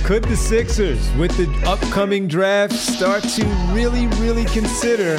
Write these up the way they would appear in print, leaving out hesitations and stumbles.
Could the Sixers, with the upcoming draft, start to really, really consider,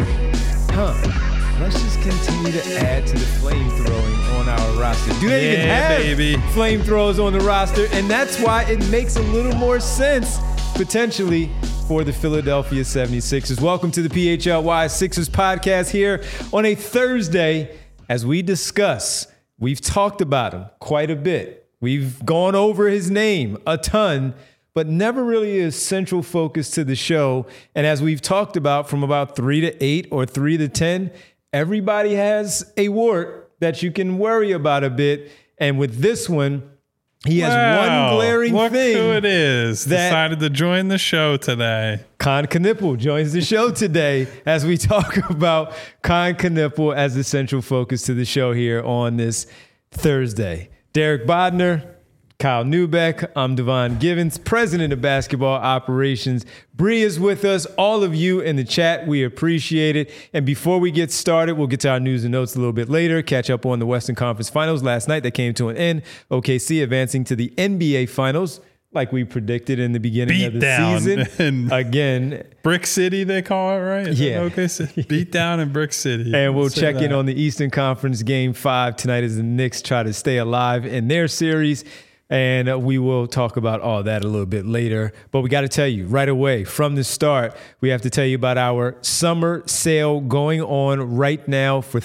let's just continue to add to the flamethrowing on our roster? Do they even have flamethrowers on the roster? And that's why it makes a little more sense, potentially, for the Philadelphia 76ers. Welcome to the PHLY Sixers podcast here on a Thursday as we discuss. We've talked about him quite a bit. We've gone over his name a ton, but never really a central focus to the show. And as we've talked about, from about 3 to 8 or 3 to 10, everybody has a wart that you can worry about a bit. And with this one, he has one glaring thing. Look who it is. Decided to join the show today. Kon Knueppel joins the show today as we talk about Kon Knueppel as the central focus to the show here on this Thursday. Derek Bodner, Kyle Neubeck, I'm Devon Givens, president of basketball operations. Bree is with us. All of you in the chat, we appreciate it. And before we get started, we'll get to our news and notes a little bit later, catch up on the Western Conference Finals last night that came to an end. OKC advancing to the NBA Finals, like we predicted in the beginning of the season. Again. Brick City, they call it, right? Okay. Beat down in Brick City. And we'll check in on the Eastern Conference Game 5 tonight as the Knicks try to stay alive in their series. And we will talk about all that a little bit later. But we got to tell you right away from the start, we have to tell you about our summer sale going on right now for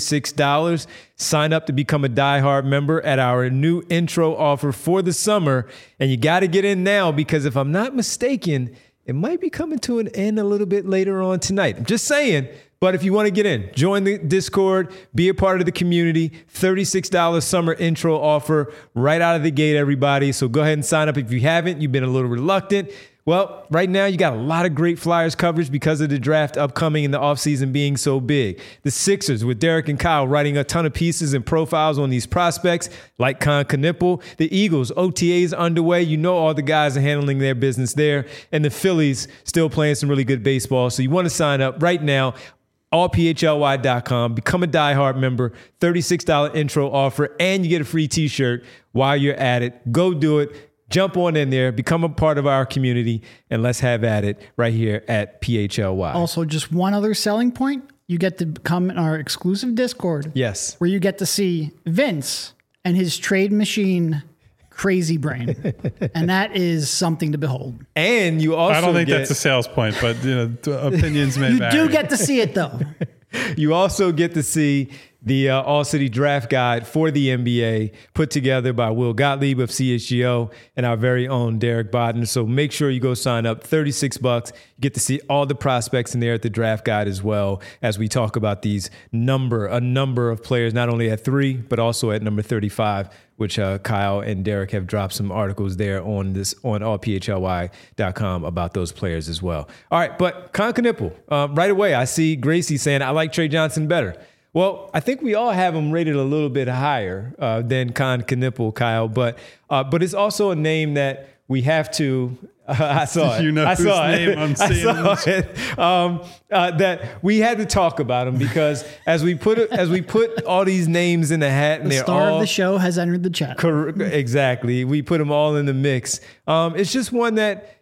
$36. Sign up to become a diehard member at our new intro offer for the summer. And you got to get in now because if I'm not mistaken, it might be coming to an end a little bit later on tonight. I'm just saying. But if you want to get in, join the Discord, be a part of the community, $36 summer intro offer right out of the gate, everybody. So go ahead and sign up if you haven't. You've been a little reluctant. Well, right now you got a lot of great Flyers coverage because of the draft upcoming and the offseason being so big. The Sixers with Derek and Kyle writing a ton of pieces and profiles on these prospects like Kon Knueppel. The Eagles, OTAs underway. You know all the guys are handling their business there. And the Phillies still playing some really good baseball. So you want to sign up right now. allphly.com, become a diehard member, $36 intro offer, and you get a free t-shirt while you're at it. Go do it. Jump on in there, become a part of our community, and let's have at it right here at PHLY. Also, just one other selling point, you get to come in our exclusive Discord. Yes. Where you get to see Vince and his trade machine crazy brain. And that is something to behold. And you also I don't think that's a sales point, but opinions may vary. You do get to see it though. You also get to see the All-City Draft Guide for the NBA put together by Will Gottlieb of CHGO and our very own Derek Bodner. So make sure you go sign up. $36. You get to see all the prospects in there at the Draft Guide as well as we talk about a number of players, not only at 3, but also at number 35, which Kyle and Derek have dropped some articles there on allphly.com about those players as well. All right, but Kon Knueppel, right away, I see Gracie saying, I like Trey Johnson better. Well, I think we all have him rated a little bit higher than Kon Knueppel, Kyle, but it's also a name that we have to. I saw it. I saw it. That we had to talk about him because as we put all these names in the hat, and the star of the show has entered the chat. Exactly, we put them all in the mix. It's just one that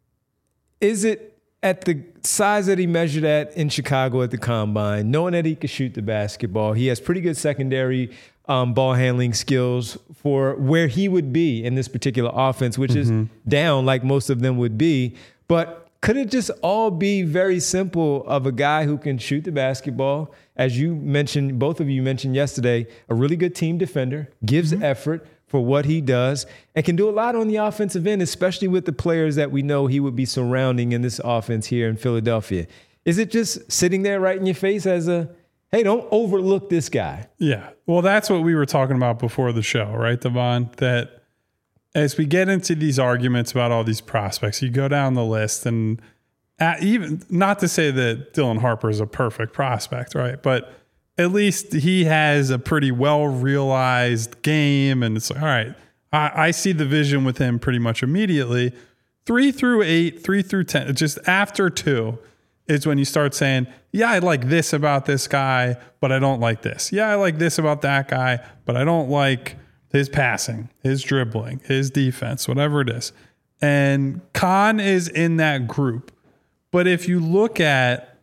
is it. At the size that he measured at in Chicago at the Combine, knowing that he could shoot the basketball, he has pretty good secondary ball handling skills for where he would be in this particular offense, which is down like most of them would be. But could it just all be very simple of a guy who can shoot the basketball? As you mentioned, both of you mentioned yesterday, a really good team defender, gives effort for what he does, and can do a lot on the offensive end, especially with the players that we know he would be surrounding in this offense here in Philadelphia. Is it just sitting there right in your face as hey, don't overlook this guy? Yeah. Well, that's what we were talking about before the show, right, Devon? That as we get into these arguments about all these prospects, you go down the list, and even not to say that Dylan Harper is a perfect prospect, right? But at least he has a pretty well-realized game, and it's like, all right, I see the vision with him pretty much immediately. 3 through 8, 3 through 10, just after 2 is when you start saying, yeah, I like this about this guy, but I don't like this. Yeah, I like this about that guy, but I don't like his passing, his dribbling, his defense, whatever it is. And Khan is in that group. But if you look at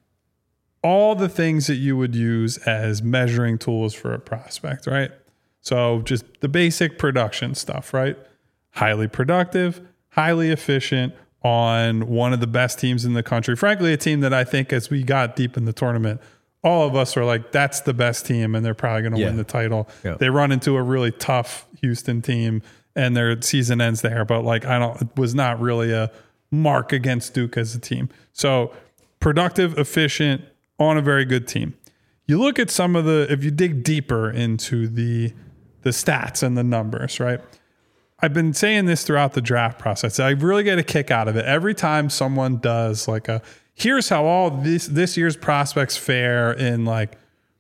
all the things that you would use as measuring tools for a prospect, right? So just the basic production stuff, right? Highly productive, highly efficient on one of the best teams in the country. Frankly, a team that I think as we got deep in the tournament, all of us were like, that's the best team and they're probably going to win the title. Yeah. They run into a really tough Houston team and their season ends there. But like, it was not really a mark against Duke as a team. So productive, efficient, on a very good team. You look at some of if you dig deeper into the stats and the numbers, right? I've been saying this throughout the draft process. I really get a kick out of it. Every time someone does like here's how all this year's prospects fare in like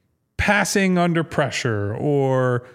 passing under pressure or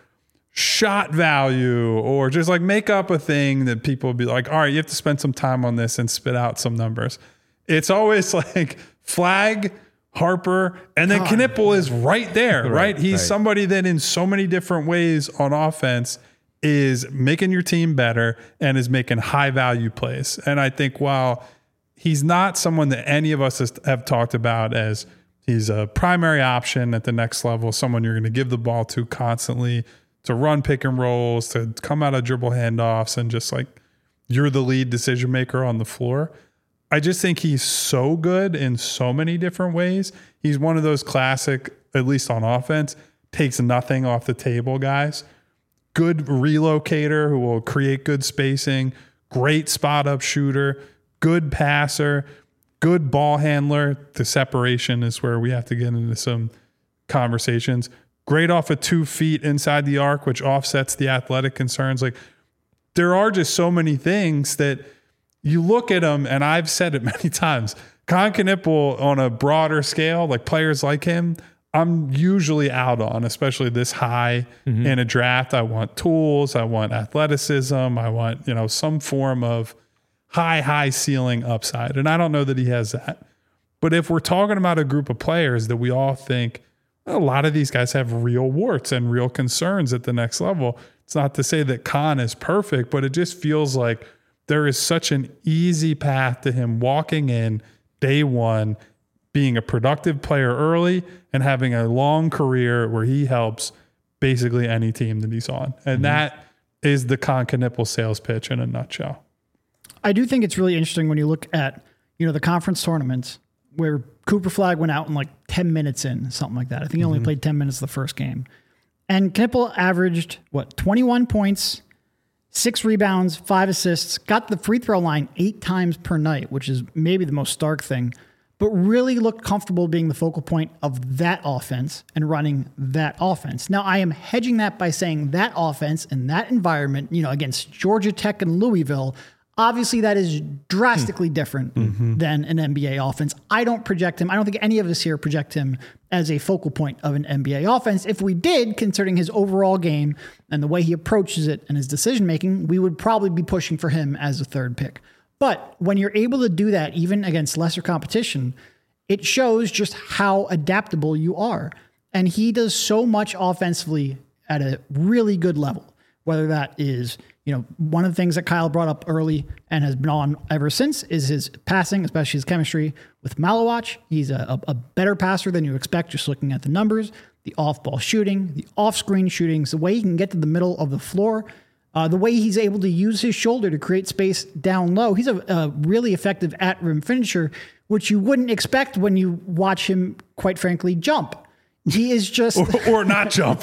shot value, or just like make up a thing that people would be like, all right, you have to spend some time on this and spit out some numbers. It's always like Flag, Harper, and then Knipple is right there, right? He's somebody that in so many different ways on offense is making your team better and is making high value plays. And I think while he's not someone that any of us have talked about as he's a primary option at the next level, someone you're going to give the ball to constantly, to run pick and rolls, to come out of dribble handoffs, and just like you're the lead decision maker on the floor. I just think he's so good in so many different ways. He's one of those classic, at least on offense, takes nothing off the table guys. Good relocator who will create good spacing, great spot up shooter, good passer, good ball handler. The separation is where we have to get into some conversations. Great off of 2 feet inside the arc, which offsets the athletic concerns. Like, there are just so many things that you look at him, and I've said it many times, Kon Knipple on a broader scale, like players like him, I'm usually out on, especially this high in a draft. I want tools. I want athleticism. I want, some form of high ceiling upside. And I don't know that he has that. But if we're talking about a group of players that we all think, a lot of these guys have real warts and real concerns at the next level. It's not to say that Kon is perfect, but it just feels like there is such an easy path to him walking in day one, being a productive player early and having a long career where he helps basically any team that he's on. And that is the Kon Knipple sales pitch in a nutshell. I do think it's really interesting when you look at, the conference tournaments where Cooper Flag went out in like 10 minutes in, something like that. I think he only played 10 minutes the first game. And Knipple averaged, 21 points, 6 rebounds, 5 assists, got the free throw line 8 times per night, which is maybe the most stark thing, but really looked comfortable being the focal point of that offense and running that offense. Now, I am hedging that by saying that offense and that environment, against Georgia Tech and Louisville, obviously that is drastically different than an NBA offense. I don't project him. I don't think any of us here project him as a focal point of an NBA offense. If we did, considering his overall game and the way he approaches it and his decision-making, we would probably be pushing for him as a third pick. But when you're able to do that, even against lesser competition, it shows just how adaptable you are. And he does so much offensively at a really good level, whether that is, one of the things that Kyle brought up early and has been on ever since is his passing, especially his chemistry with Malawach. He's a better passer than you expect just looking at the numbers, the off-ball shooting, the off-screen shootings, the way he can get to the middle of the floor, the way he's able to use his shoulder to create space down low. He's a really effective at-rim finisher, which you wouldn't expect when you watch him, quite frankly, jump. He is just... or not jump.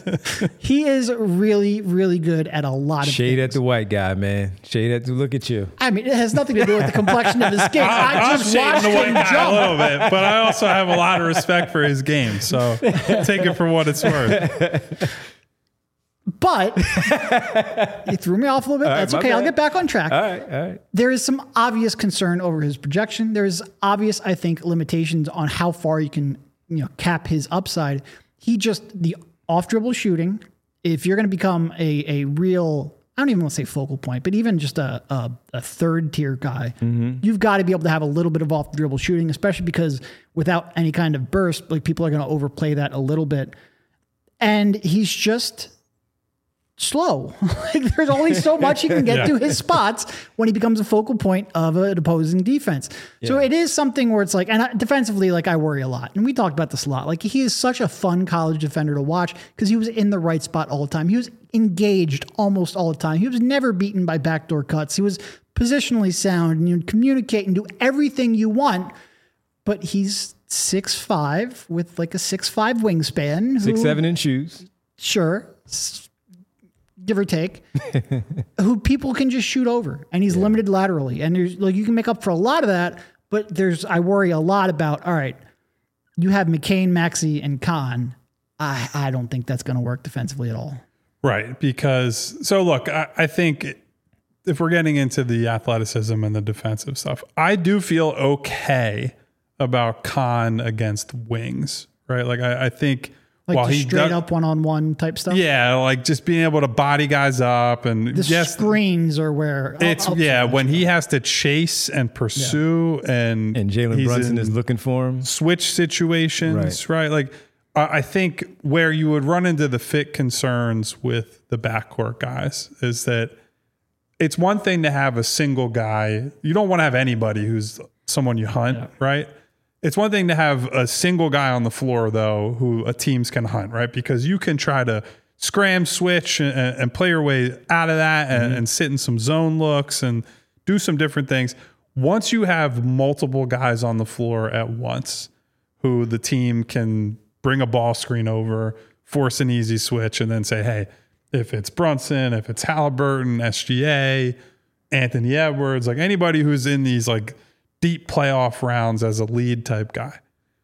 He is really, really good at a lot of Shade things. at the white guy, man. Shade at the... Look at you. I mean, it has nothing to do with the complexion of his skin. I just watched the white him guy jump. a little bit, but I also have a lot of respect for his game. So take it for what it's worth. But he threw me off a little bit. That's okay. I'll get back on track. All right. There is some obvious concern over his projection. There's obvious, I think, limitations on how far you can cap his upside. The off dribble shooting, if you're going to become a real, I don't even want to say focal point, but even just a third tier guy, you've got to be able to have a little bit of off dribble shooting, especially because without any kind of burst, like people are going to overplay that a little bit. And he's just slow. Like there's only so much he can get to his spots when he becomes a focal point of an opposing defense. So it is something where it's like, and defensively, like I worry a lot. And we talked about this a lot. Like he is such a fun college defender to watch because he was in the right spot all the time. He was engaged almost all the time. He was never beaten by backdoor cuts. He was positionally sound and you communicate and do everything you want, but he's 6'5" with like a 6'5" wingspan. 6'7" in shoes. Sure. Give or take, who people can just shoot over, and he's limited laterally. And there's like, you can make up for a lot of that, but I worry a lot about, all right, you have McCain, Maxey, and Khan. I don't think that's going to work defensively at all. Right. Because, so look, I think if we're getting into the athleticism and the defensive stuff, I do feel okay about Khan against wings, right? Like I think, like while he straight up one-on-one type stuff. Yeah, like just being able to body guys up and the screens are where it's when he has to chase and pursue and Jalen Brunson is looking for him. Switch situations, right? Like I think where you would run into the fit concerns with the backcourt guys is that it's one thing to have a single guy. You don't want to have anybody who's someone you hunt, right? It's one thing to have a single guy on the floor, though, who a teams can hunt, right? Because you can try to scram, switch, and play your way out of that and sit in some zone looks and do some different things. Once you have multiple guys on the floor at once who the team can bring a ball screen over, force an easy switch, and then say, hey, if it's Brunson, if it's Halliburton, SGA, Anthony Edwards, like anybody who's in these like deep playoff rounds as a lead type guy.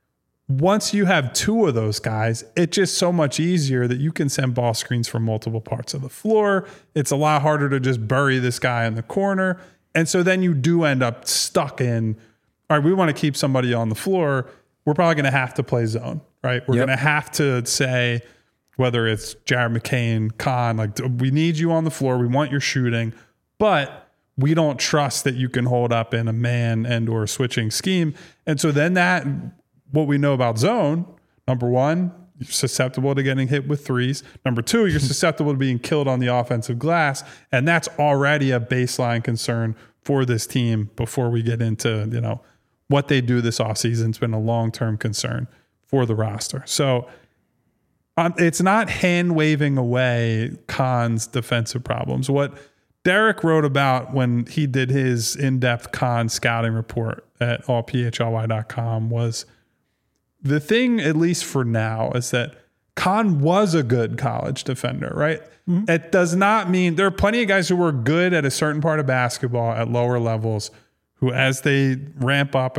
Once you have two of those guys, it's just so much easier that you can send ball screens from multiple parts of the floor. It's a lot harder to just bury this guy in the corner. And so then you do end up stuck in, all right, we want to keep somebody on the floor. We're probably going to have to play zone, right? We're going to have to say, whether it's Jared McCain, Khan, like we need you on the floor. We want your shooting, but we don't trust that you can hold up in a man and or switching scheme. And so then that, what we know about zone, number one, you're susceptible to getting hit with threes. Number two, you're susceptible to being killed on the offensive glass. And that's already a baseline concern for this team before we get into, what they do this offseason. It's been a long-term concern for the roster. So it's not hand-waving away Khan's defensive problems. What Derek wrote about when he did his in-depth Khan scouting report at allphly.com was the thing, at least for now, is that Khan was a good college defender, right? Mm-hmm. It does not mean there are plenty of guys who were good at a certain part of basketball at lower levels who, as they ramp up,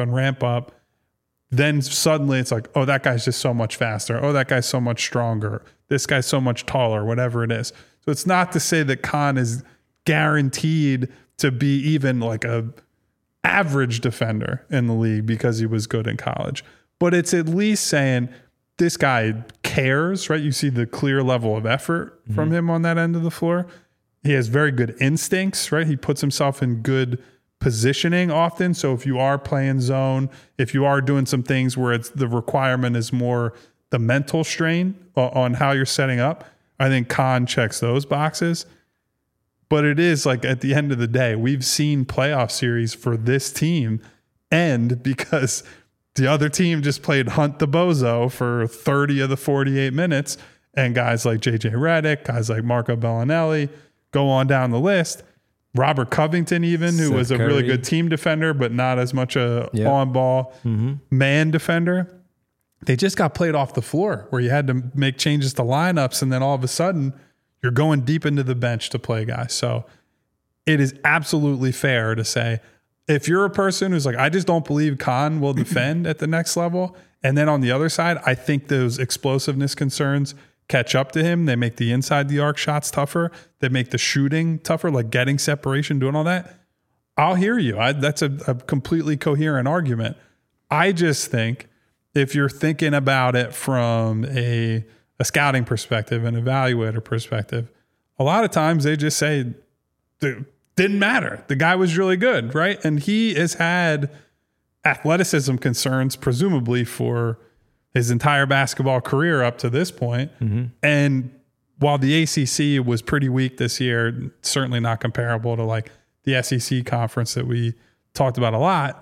then suddenly it's like, oh, that guy's just so much faster. Oh, that guy's so much stronger. This guy's so much taller, whatever it is. So it's not to say that Khan is guaranteed to be even like a average defender in the league because he was good in college. But it's at least saying this guy cares, right? You see the clear level of effort from him on that end of the floor. He has very good instincts, right? He puts himself in good positioning often. So if you are playing zone, if you are doing some things where it's the requirement is more the mental strain on how you're setting up, I think Khan checks those boxes. But it is like at the end of the day, we've seen playoff series for this team end because the other team just played Hunt the Bozo for 30 of the 48 minutes. And guys like JJ Redick, guys like Marco Bellinelli, go on down the list. Robert Covington even, who was a really good team defender, but not as much a on-ball man defender. They just got played off the floor where you had to make changes to lineups. And then all of a sudden, you're going deep into the bench to play guys. So it is absolutely fair to say, if you're a person who's like, I just don't believe Khan will defend at the next level. And then on the other side, I think those explosiveness concerns catch up to him. They make the inside the arc shots tougher. They make the shooting tougher, like getting separation, doing all that. I'll hear you. That's a completely coherent argument. I just think if you're thinking about it from a scouting perspective, an evaluator perspective, a lot of times they just say, didn't matter. The guy was really good, right? And he has had athleticism concerns, presumably for his entire basketball career up to this point. And while the ACC was pretty weak this year, certainly not comparable to like the SEC conference that we talked about a lot,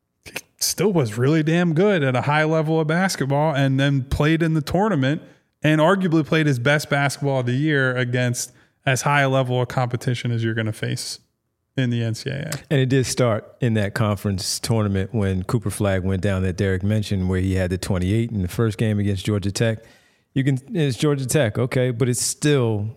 still was really damn good at a high level of basketball, and then played in the tournament and arguably played his best basketball of the year against as high a level of competition as you're going to face in the NCAA. And it did start in that conference tournament when Cooper Flagg went down that Derek mentioned, where he had the 28 in the first game against Georgia Tech. It's Georgia Tech, okay, but it's still,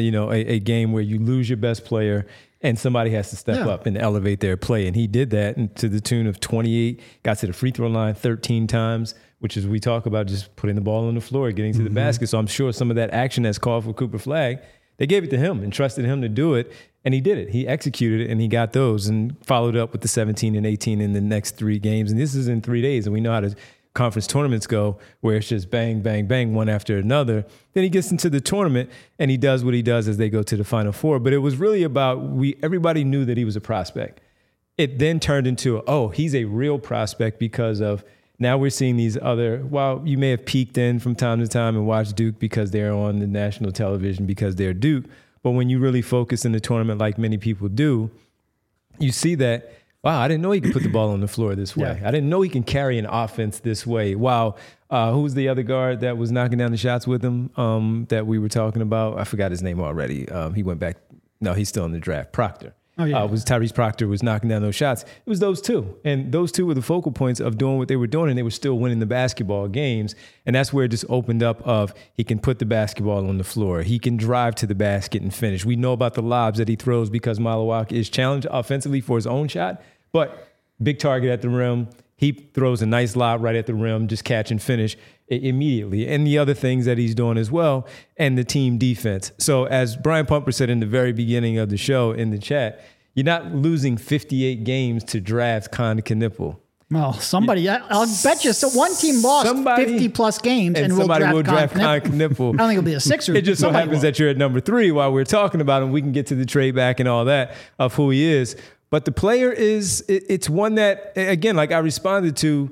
a game where you lose your best player and somebody has to step up and elevate their play. And he did that, and to the tune of 28, got to the free throw line 13 times, which is, we talk about just putting the ball on the floor, getting to the basket. So I'm sure some of that action that's called for Cooper Flagg, they gave it to him and trusted him to do it. And he did it. He executed it, and he got those and followed up with the 17 and 18 in the next 3 games. And this is in 3 days. And we know how the conference tournaments go, where it's just bang, bang, bang, one after another. Then he gets into the tournament, and he does what he does as they go to the Final Four. But it was really about, everybody knew that he was a prospect. It then turned into, he's a real prospect because of, now we're seeing these other, while you may have peeked in from time to time and watched Duke because they're on the national television because they're Duke, but when you really focus in the tournament like many people do, you see that, wow, I didn't know he could put the ball on the floor this way. I didn't know he can carry an offense this way. Wow. Who was the other guard that was knocking down the shots with him that we were talking about? I forgot his name already. He went back. No, he's still in the draft. Proctor. Was Tyrese Proctor was knocking down those shots. It was those two. And those two were the focal points of doing what they were doing, and they were still winning the basketball games. And that's where it just opened up of, he can put the basketball on the floor. He can drive to the basket and finish. We know about the lobs that he throws because Malawak is challenged offensively for his own shot, but big target at the rim. He throws a nice lob right at the rim, just catch and finish immediately. And the other things that he's doing as well, and the team defense. So as Brian Pumper said in the very beginning of the show in the chat, you're not losing 58 games to draft Con Knipple. Well, somebody, I'll bet you. So one team lost 50-plus games and somebody will draft Con Knipple. I don't think it'll be a Sixers. It just so happens that you're at number 3 while we're talking about him. We can get to the trade back and all that of who he is. But the player it's one that, again, like I responded to,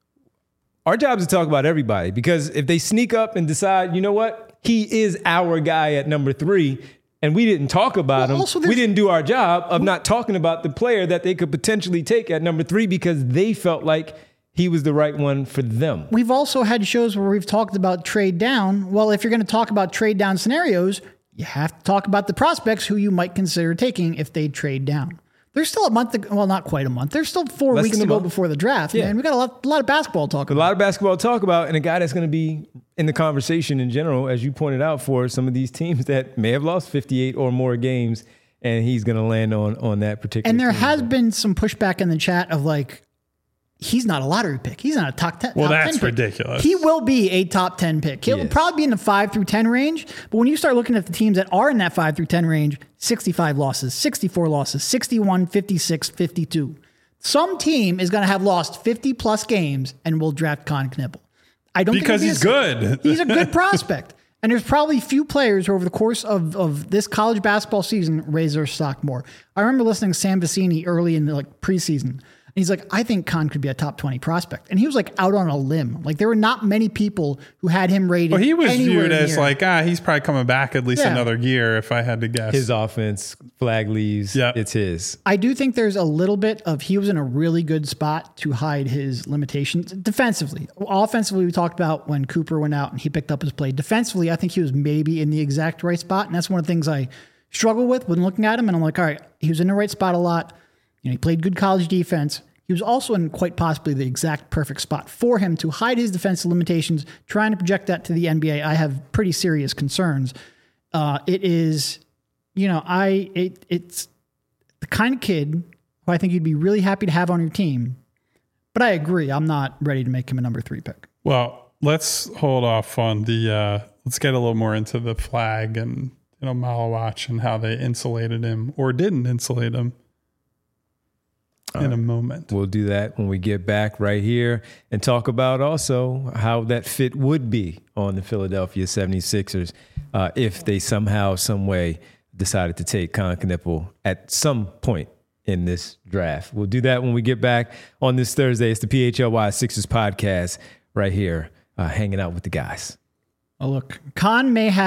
our job is to talk about everybody, because if they sneak up and decide, you know what, he is our guy at number 3, and we didn't talk about him, we didn't do our job of not talking about the player that they could potentially take at number 3 because they felt like he was the right one for them. We've also had shows where we've talked about trade down. Well, if you're going to talk about trade down scenarios, you have to talk about the prospects who you might consider taking if they trade down. There's still a month, not quite a month. There's still 4 weeks to go before the draft. Yeah. Man, we got a lot of basketball to talk about. A lot of basketball to talk about, and a guy that's going to be in the conversation in general, as you pointed out, for some of these teams that may have lost 58 or more games, and he's going to land on that particular And there team. has been some pushback in the chat of like, he's not a lottery pick. He's not a top 10. Well, that's pick. ridiculous. He will be a top 10 pick. He'll probably be in the 5 through 10 range. But when you start looking at the teams that are in that 5 through 10 range, 65 losses, 64 losses, 61, 56, 52. Some team is going to have lost 50 plus games and will draft Con Knipple. I don't because think he's good. He's a good prospect. And there's probably few players who over the course of this college basketball season raise their stock more. I remember listening to Sam Vecini early in the preseason. And he's like, I think Con could be a top 20 prospect. And he was like out on a limb. Like there were not many people who had him rated. Well, he was viewed as like, he's probably coming back at least another year if I had to guess. His offense, Flagg leaves, it's his. I do think there's a little bit of, he was in a really good spot to hide his limitations defensively. Offensively, we talked about when Cooper went out and he picked up his play. Defensively, I think he was maybe in the exact right spot. And that's one of the things I struggle with when looking at him. And I'm like, all right, he was in the right spot a lot. He played good college defense. He was also in quite possibly the exact perfect spot for him to hide his defensive limitations. Trying to project that to the NBA, I have pretty serious concerns. It is, it's the kind of kid who I think you'd be really happy to have on your team. But I agree, I'm not ready to make him a number 3 pick. Well, let's hold off on the. Let's get a little more into the Flagg and Malawak and how they insulated him or didn't insulate him. In a moment. We'll do that when we get back right here and talk about also how that fit would be on the Philadelphia 76ers if they somehow, some way decided to take Con Knipple at some point in this draft. We'll do that when we get back on this Thursday. It's the PHLY Sixers podcast right here, hanging out with the guys. Oh, look, Con may have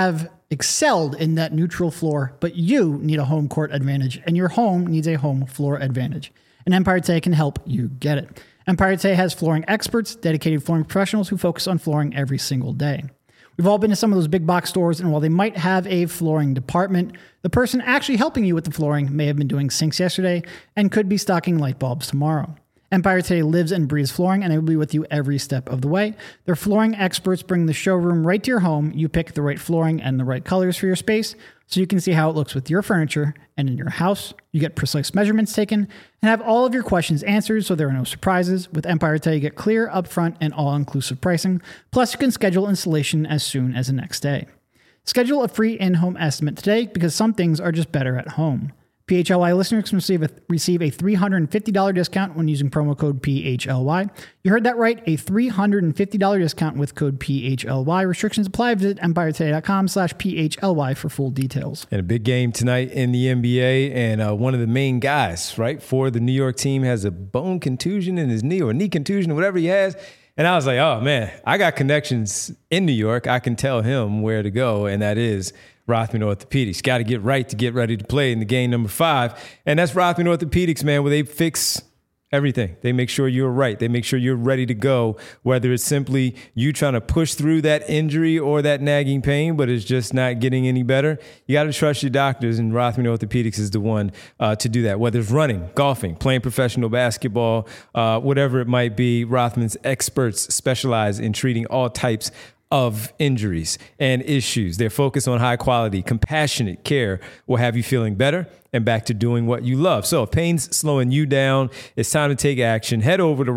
excelled in that neutral floor, but you need a home court advantage, and your home needs a home floor advantage. And Empire Today can help you get it. Empire Today has flooring experts, dedicated flooring professionals who focus on flooring every single day. We've all been to some of those big box stores, and while they might have a flooring department, the person actually helping you with the flooring may have been doing sinks yesterday and could be stocking light bulbs tomorrow. Empire Today lives and breathes flooring, and they will be with you every step of the way. Their flooring experts bring the showroom right to your home. You pick the right flooring and the right colors for your space so you can see how it looks with your furniture and in your house. You get precise measurements taken and have all of your questions answered so there are no surprises. With Empire Today, you get clear, upfront, and all-inclusive pricing. Plus, you can schedule installation as soon as the next day. Schedule a free in-home estimate today because some things are just better at home. PHLY listeners can receive a $350 discount when using promo code PHLY. You heard that right, a $350 discount with code PHLY. Restrictions apply. Visit EmpireToday.com/PHLY for full details. And a big game tonight in the NBA, and one of the main guys, right, for the New York team has a bone contusion in his knee or knee contusion or whatever he has. And I was like, oh, man, I got connections in New York. I can tell him where to go, and that is Rothman Orthopedics. Got to get right to get ready to play in the game number 5. And that's Rothman Orthopedics, man, where they fix everything. They make sure you're right. They make sure you're ready to go, whether it's simply you trying to push through that injury or that nagging pain, but it's just not getting any better. You got to trust your doctors, and Rothman Orthopedics is the one to do that. Whether it's running, golfing, playing professional basketball, whatever it might be, Rothman's experts specialize in treating all types of injuries and issues. Their focus on high quality, compassionate care will have you feeling better and back to doing what you love. So if pain's slowing you down, it's time to take action. Head over to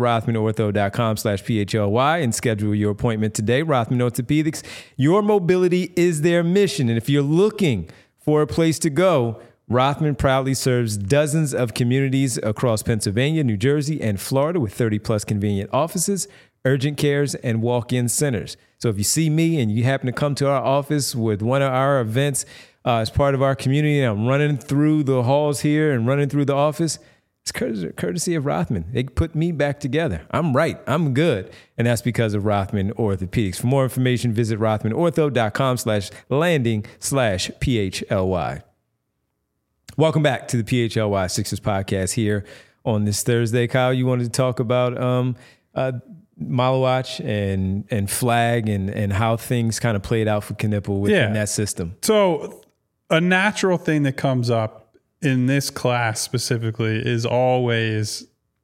RothmanOrtho.com/PHLY and schedule your appointment today. Rothman Orthopedics, your mobility is their mission. And if you're looking for a place to go, Rothman proudly serves dozens of communities across Pennsylvania, New Jersey, and Florida with 30-plus convenient offices, urgent cares, and walk-in centers. So if you see me and you happen to come to our office with one of our events as part of our community, and I'm running through the halls here and running through the office, it's courtesy of Rothman. They put me back together. I'm right. I'm good. And that's because of Rothman Orthopedics. For more information, visit RothmanOrtho.com/landing/PHLY. Welcome back to the PHLY Sixers podcast here on this Thursday. Kyle, you wanted to talk about Malawach and Flag and how things kind of played out for Knipple within that system. So a natural thing that comes up in this class specifically is always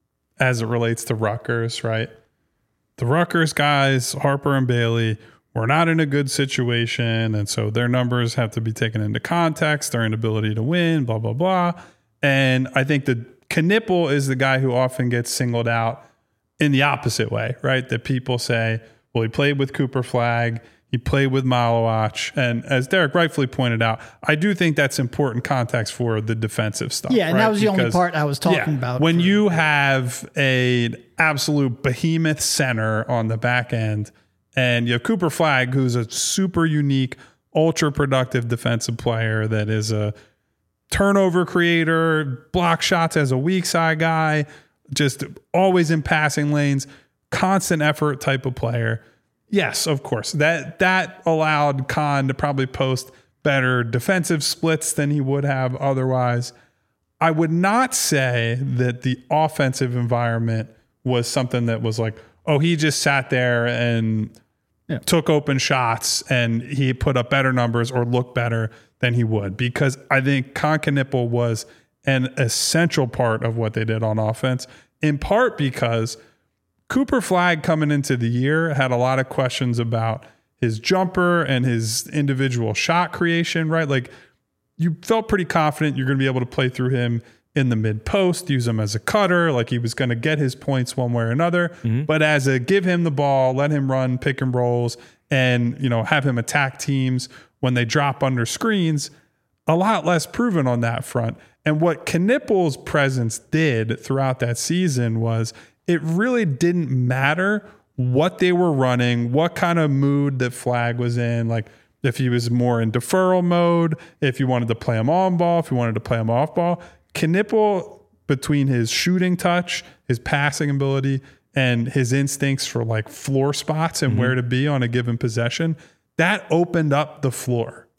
as it relates to Rutgers, right? The Rutgers guys, Harper and Bailey, were not in a good situation, and so their numbers have to be taken into context, their inability to win, blah, blah, blah. And I think that Knipple is the guy who often gets singled out in the opposite way, right? That people say, well, he played with Cooper Flag, he played with Malawach. And as Derek rightfully pointed out, I do think that's important context for the defensive stuff. Yeah, and right? that was the only part I was talking about. When you have an absolute behemoth center on the back end, and you have Cooper Flag, who's a super unique, ultra productive defensive player that is a turnover creator, block shots as a weak side guy, just always in passing lanes, constant effort type of player. Yes, of course. That allowed Khan to probably post better defensive splits than he would have otherwise. I would not say that the offensive environment was something that was like, oh, he just sat there and took open shots and he put up better numbers or looked better than he would. Because I think Khan Knipple was an essential part of what they did on offense, in part because Cooper Flag coming into the year had a lot of questions about his jumper and his individual shot creation, right? Like you felt pretty confident you're going to be able to play through him in the mid post, use him as a cutter, like he was going to get his points one way or another. Mm-hmm. But as a give him the ball, let him run pick and rolls and, have him attack teams when they drop under screens, a lot less proven on that front. And what Knipple's presence did throughout that season was it really didn't matter what they were running, what kind of mood that Flag was in, like if he was more in deferral mode, if you wanted to play him on ball, if you wanted to play him off ball. Knipple, between his shooting touch, his passing ability, and his instincts for like floor spots and where to be on a given possession, that opened up the floor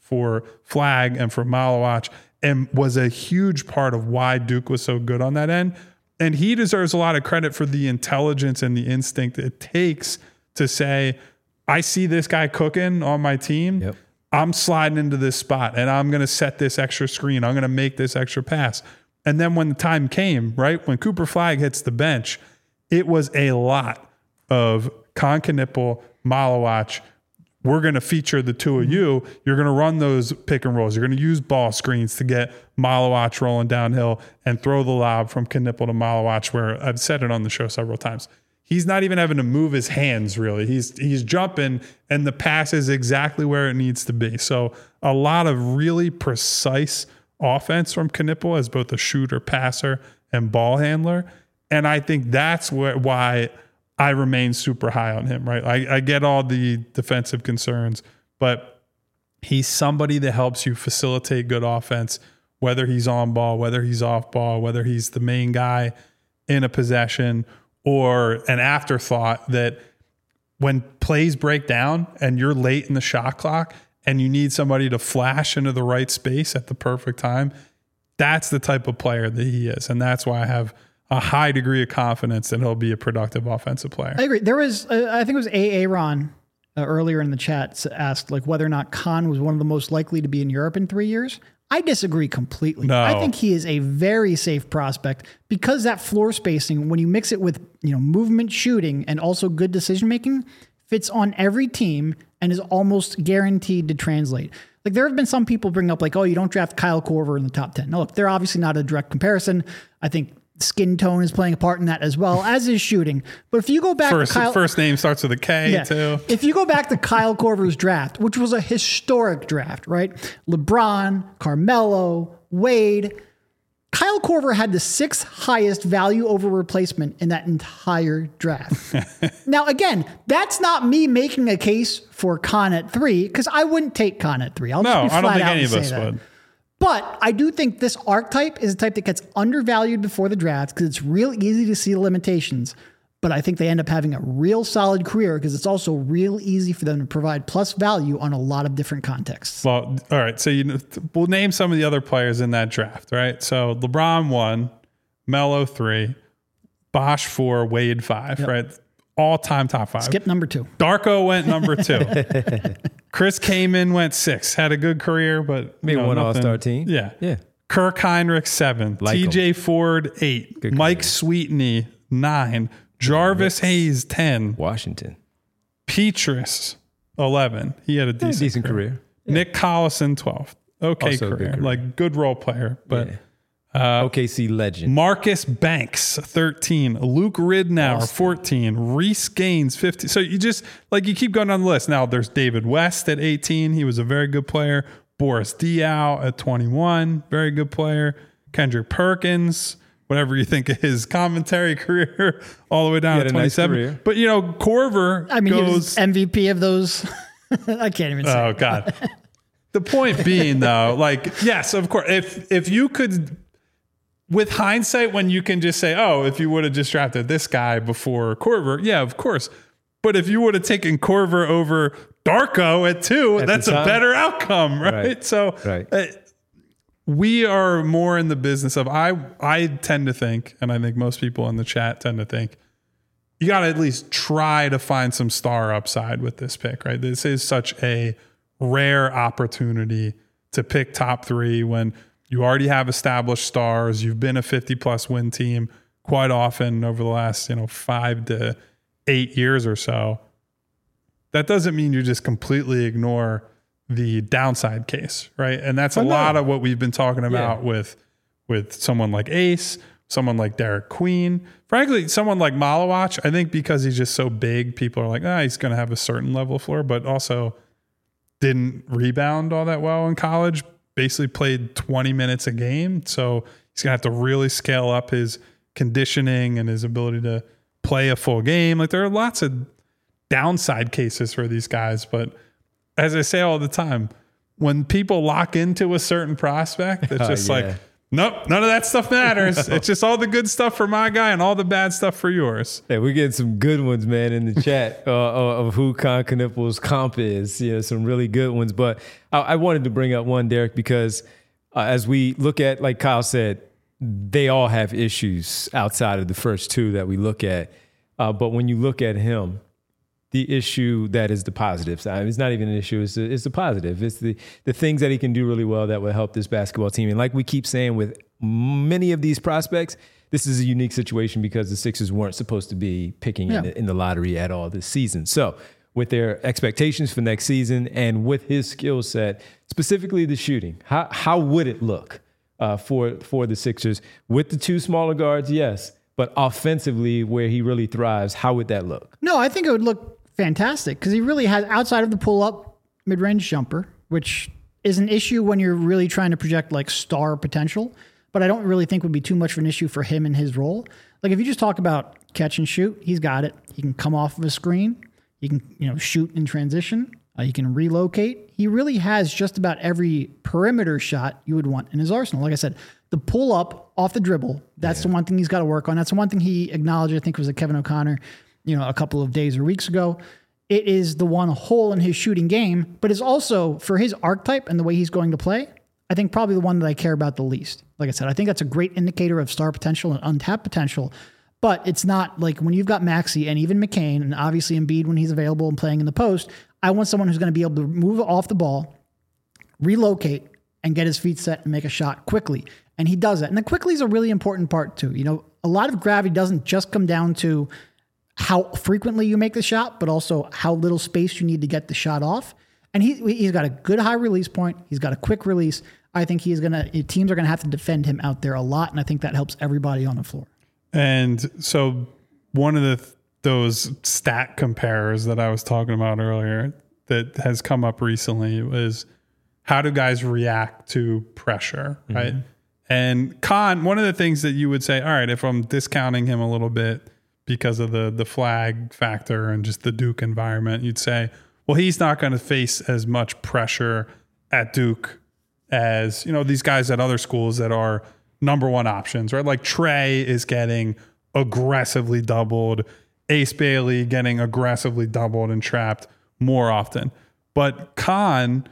for Flag and for Malawach, and was a huge part of why Duke was so good on that end. And he deserves a lot of credit for the intelligence and the instinct it takes to say, I see this guy cooking on my team. Yep. I'm sliding into this spot and I'm going to set this extra screen. I'm going to make this extra pass. And then when the time came, right, when Cooper Flag hits the bench, it was a lot of Con Knipple, Malawach. We're going to feature the two of you. You're going to run those pick and rolls. You're going to use ball screens to get Malawach rolling downhill and throw the lob from Knipple to Malawach, where I've said it on the show several times. He's not even having to move his hands, really. He's jumping, and the pass is exactly where it needs to be. So a lot of really precise offense from Knipple as both a shooter, passer, and ball handler. And I think that's why I remain super high on him, right? I get all the defensive concerns, but he's somebody that helps you facilitate good offense, whether he's on ball, whether he's off ball, whether he's the main guy in a possession or an afterthought that when plays break down and you're late in the shot clock and you need somebody to flash into the right space at the perfect time, that's the type of player that he is. And that's why I have a high degree of confidence that he'll be a productive offensive player. I agree. There was, I think it was Aaron earlier in the chat asked like whether or not Con was one of the most likely to be in Europe in 3 years. I disagree completely. No. I think he is a very safe prospect because that floor spacing, when you mix it with movement, shooting, and also good decision making, fits on every team and is almost guaranteed to translate. Like there have been some people bring up like, oh, you don't draft Kyle Korver in the top 10. No, look, they're obviously not a direct comparison. I think skin tone is playing a part in that as well, as is shooting. But if you go back to Kyle... First name starts with a K, too. If you go back to Kyle Korver's draft, which was a historic draft, right? LeBron, Carmelo, Wade. Kyle Korver had the 6th highest value over replacement in that entire draft. Now, again, that's not me making a case for Con at 3, because I wouldn't take Con at 3. I don't think any of us would. But I do think this archetype is a type that gets undervalued before the draft because it's real easy to see the limitations. But I think they end up having a real solid career because it's also real easy for them to provide plus value on a lot of different contexts. Well, all right. So we'll name some of the other players in that draft, right? So LeBron 1, Melo 3, Bosh 4, Wade 5, right? All-time top 5. Skip number 2. Darko went number 2. Chris Kaman went 6. Had a good career, but maybe one all-star team. Yeah. Kirk Heinrich 7. Like TJ Ford 8. Good Mike career. Sweetney 9. Jarvis Hayes 10. Washington. Petrus 11. He had a decent career. Nick Collison 12. Okay, Also a good career. career. Like good role player, but OKC legend. Marcus Banks, 13. Luke Ridnour, 14. Reese Gaines, 15. So you just, like, you keep going down the list. Now, there's David West at 18. He was a very good player. Boris Diaw at 21. Very good player. Kendrick Perkins, whatever you think of his commentary career, all the way down to 27. Nice career. But, Korver I mean, he goes... was MVP of those. I can't even say. Oh, God. The point being, though, like, yes, of course, if you could... With hindsight, when you can just say, oh, if you would have just drafted this guy before Korver, yeah, of course. But if you would have taken Korver over Darko at 2, that's a better outcome, right? So we are more in the business of, I tend to think, and I think most people in the chat tend to think, you got to at least try to find some star upside with this pick, right? This is such a rare opportunity to pick top 3 when you already have established stars. You've been a 50-plus win team quite often over the last 5 to 8 years or so. That doesn't mean you just completely ignore the downside case, right? And that's a lot of what we've been talking about with someone like Ace, someone like Derek Queen. Frankly, someone like Malawach, I think because he's just so big, people are like, he's going to have a certain level of floor, but also didn't rebound all that well in college. Basically played 20 minutes a game. So he's going to have to really scale up his conditioning and his ability to play a full game. Like there are lots of downside cases for these guys. But as I say all the time, when people lock into a certain prospect, it's just like Nope, none of that stuff matters. It's just all the good stuff for my guy and all the bad stuff for yours. Hey, we're getting some good ones, man, in the chat of who Con Knueppel's comp is. Some really good ones. But I wanted to bring up one, Derek, because as we look at, like Kyle said, they all have issues outside of the first two that we look at. But when you look at him, the issue that is the positive side, it's not even an issue, it's the positive. It's the things that he can do really well that will help this basketball team. And like we keep saying with many of these prospects, this is a unique situation because the Sixers weren't supposed to be picking in the lottery at all this season. So with their expectations for next season and with his skill set, specifically the shooting, how would it look for the Sixers with the two smaller guards? Yes. But offensively, where he really thrives, how would that look? No, I think it would look fantastic because he really has, outside of the pull-up mid-range jumper, which is an issue when you're really trying to project like star potential, but I don't really think would be too much of an issue for him in his role. Like if you just talk about catch and shoot, he's got it. He can come off of a screen. He can, shoot in transition. He can relocate. He really has just about every perimeter shot you would want in his arsenal. Like I said, the pull up off the dribble, that's the one thing he's got to work on. That's the one thing he acknowledged, I think it was at Kevin O'Connor, a couple of days or weeks ago. It is the one hole in his shooting game, but it's also, for his archetype and the way he's going to play, I think probably the one that I care about the least. Like I said, I think that's a great indicator of star potential and untapped potential, but it's not like when you've got Maxey and even McCain and obviously Embiid when he's available and playing in the post, I want someone who's going to be able to move off the ball, relocate, and get his feet set and make a shot quickly. And he does that. And the quickly is a really important part too. A lot of gravity doesn't just come down to how frequently you make the shot, but also how little space you need to get the shot off. And he's got a good high release point. He's got a quick release. I think teams are going to have to defend him out there a lot. And I think that helps everybody on the floor. And so one of those stat comparers that I was talking about earlier that has come up recently was how do guys react to pressure, right? Mm-hmm. And Con, one of the things that you would say, all right, if I'm discounting him a little bit because of the flag factor and just the Duke environment, you'd say, well, he's not going to face as much pressure at Duke as, these guys at other schools that are number one options, right? Like Trey is getting aggressively doubled, Ace Bailey getting aggressively doubled and trapped more often. But Con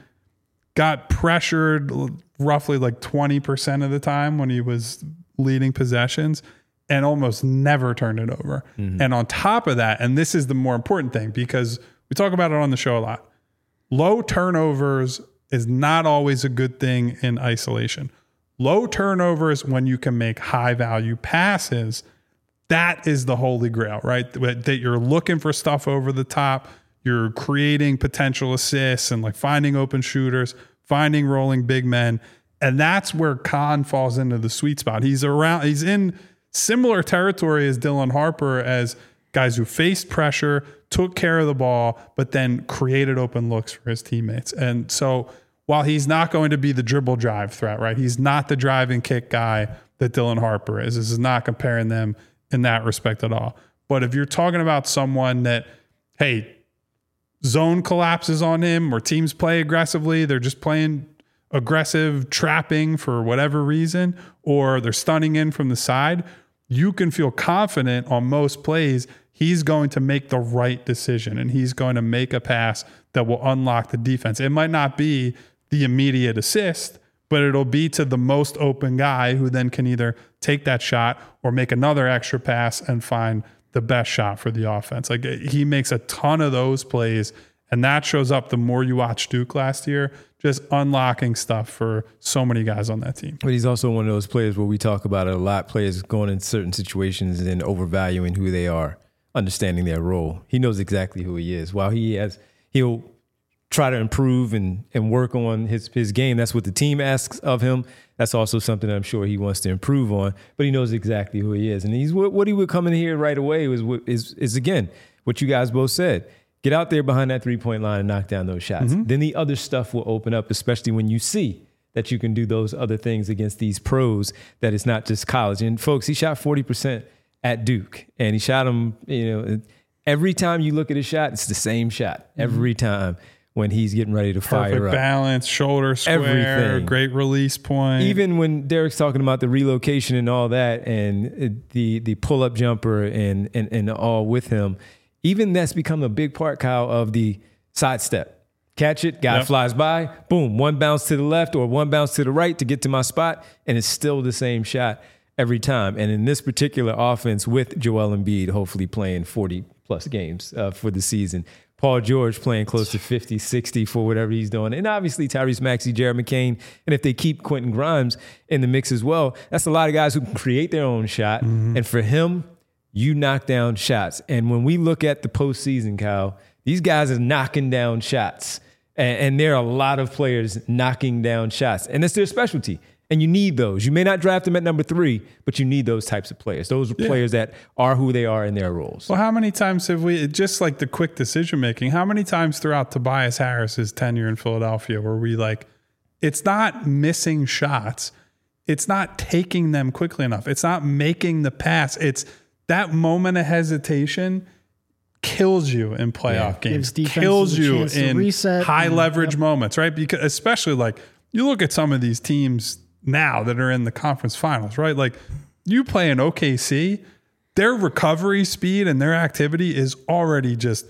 got pressured roughly like 20% of the time when he was leading possessions and almost never turned it over. Mm-hmm. And on top of that, and this is the more important thing because we talk about it on the show a lot, low turnovers is not always a good thing in isolation. Low turnovers when you can make high value passes, that is the holy grail, right? That you're looking for stuff over the top, you're creating potential assists and like finding open shooters, finding rolling big men. And that's where Con falls into the sweet spot. He's in similar territory as Dylan Harper as guys who faced pressure, took care of the ball, but then created open looks for his teammates. And so while he's not going to be the dribble drive threat, right? He's not the drive and kick guy that Dylan Harper is. This is not comparing them in that respect at all. But if you're talking about someone that, hey, zone collapses on him or teams play aggressively, they're just playing aggressive trapping for whatever reason, or they're stunning in from the side, you can feel confident on most plays he's going to make the right decision and he's going to make a pass that will unlock the defense. It might not be the immediate assist, but it'll be to the most open guy who then can either take that shot or make another extra pass and find the best shot for the offense. Like he makes a ton of those plays, and that shows up the more you watch Duke last year, just unlocking stuff for so many guys on that team. But he's also one of those players where we talk about it a lot, players going in certain situations and overvaluing who they are, understanding their role. He knows exactly who he is. While he'll try to improve and work on his game. That's what the team asks of him. That's also something I'm sure he wants to improve on, but he knows exactly who he is. And he's what he would come in here right away is again, what you guys both said. Get out there behind that three-point line and knock down those shots. Mm-hmm. Then the other stuff will open up, especially when you see that you can do those other things against these pros, that it's not just college. And folks, he shot 40% at Duke, and he shot them, every time you look at his shot, it's the same shot every time. when he's getting ready to fire Perfect up. balance, shoulder square, Everything. great release point. Even when Derek's talking about the relocation and all that, and the pull-up jumper and all with him, even that's become a big part, Kyle, of the sidestep. Catch it, guy flies by, boom, one bounce to the left or one bounce to the right to get to my spot, and it's still the same shot every time. And in this particular offense with Joel Embiid, hopefully playing 40-plus games for the season, Paul George playing close to 50, 60 for whatever he's doing. And obviously Tyrese Maxey, Jared McCain. And if they keep Quentin Grimes in the mix as well, that's a lot of guys who can create their own shot. Mm-hmm. And for him, you knock down shots. And when we look at the postseason, Kyle, these guys are knocking down shots. And there are a lot of players knocking down shots. And it's their specialty. And you need those. You may not draft them at number 3, but you need those types of players. Those are players that are who they are in their roles. Well, how many times have we, just like the quick decision making, how many times throughout Tobias Harris's tenure in Philadelphia were we like, it's not missing shots. It's not taking them quickly enough. It's not making the pass. It's that moment of hesitation kills you in playoff games, kills you in high leverage moments, right? Because especially like you look at some of these teams now that are in the conference finals, right? Like you play in OKC, their recovery speed and their activity is already just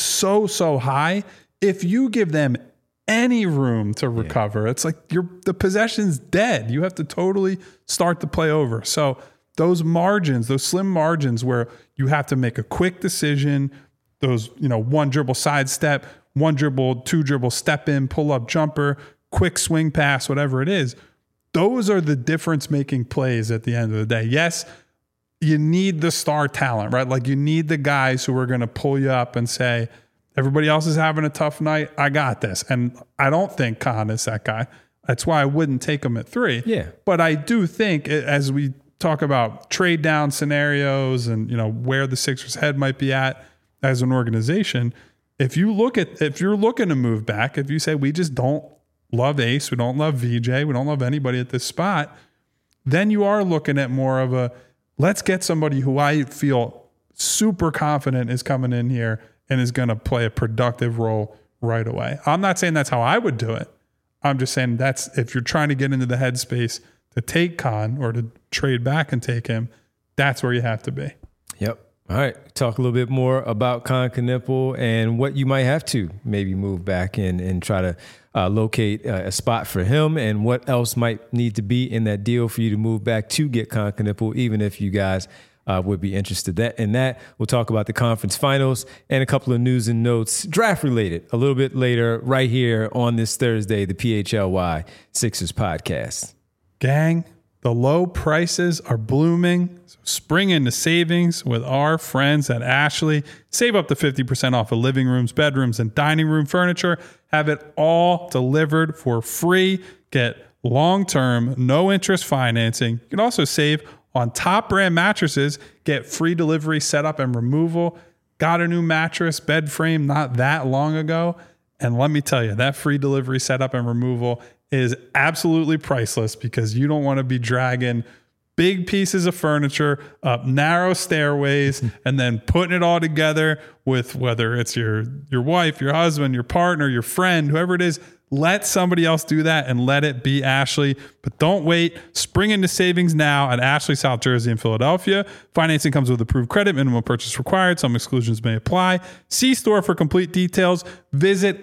so high. If you give them any room to recover, it's like the possession's dead. You have to totally start the play over. So those margins, those slim margins where you have to make a quick decision, those, one dribble sidestep, one dribble, two dribble step in, pull up jumper, quick swing pass, whatever it is. Those are the difference-making plays at the end of the day. Yes, you need the star talent, right? Like you need the guys who are going to pull you up and say, everybody else is having a tough night. I got this. And I don't think Khan is that guy. That's why I wouldn't take him at 3. Yeah. But I do think as we talk about trade down scenarios and, where the Sixers' head might be at as an organization, if you're looking to move back, if you say we just don't love Ace, we don't love VJ, we don't love anybody at this spot, then you are looking at more of a, let's get somebody who I feel super confident is coming in here and is going to play a productive role right away. I'm not saying that's how I would do it. I'm just saying that's, if you're trying to get into the headspace to take Khan or to trade back and take him, that's where you have to be. Yep. All right. Talk a little bit more about Kon Knueppel and what you might have to maybe move back and try to locate a spot for him, and what else might need to be in that deal for you to move back to get Kon Knueppel, even if you guys would be interested in that. We'll talk about the conference finals and a couple of news and notes, draft related, a little bit later right here on this Thursday, the PHLY Sixers podcast. Gang, the low prices are blooming. So spring into savings with our friends at Ashley. Save up to 50% off of living rooms, bedrooms, and dining room furniture. Have it all delivered for free. Get long-term, no-interest financing. You can also save on top brand mattresses. Get free delivery, setup, and removal. Got a new mattress, bed frame not that long ago. And let me tell you, that free delivery, setup, and removal is absolutely priceless, because you don't want to be dragging big pieces of furniture up narrow stairways and then putting it all together with, whether it's your wife, your husband, your partner, your friend, whoever it is. Let somebody else do that and let it be Ashley. But don't wait. Spring into savings now at Ashley, South Jersey, and Philadelphia. Financing comes with approved credit. Minimum purchase required. Some exclusions may apply. See store for complete details. Visit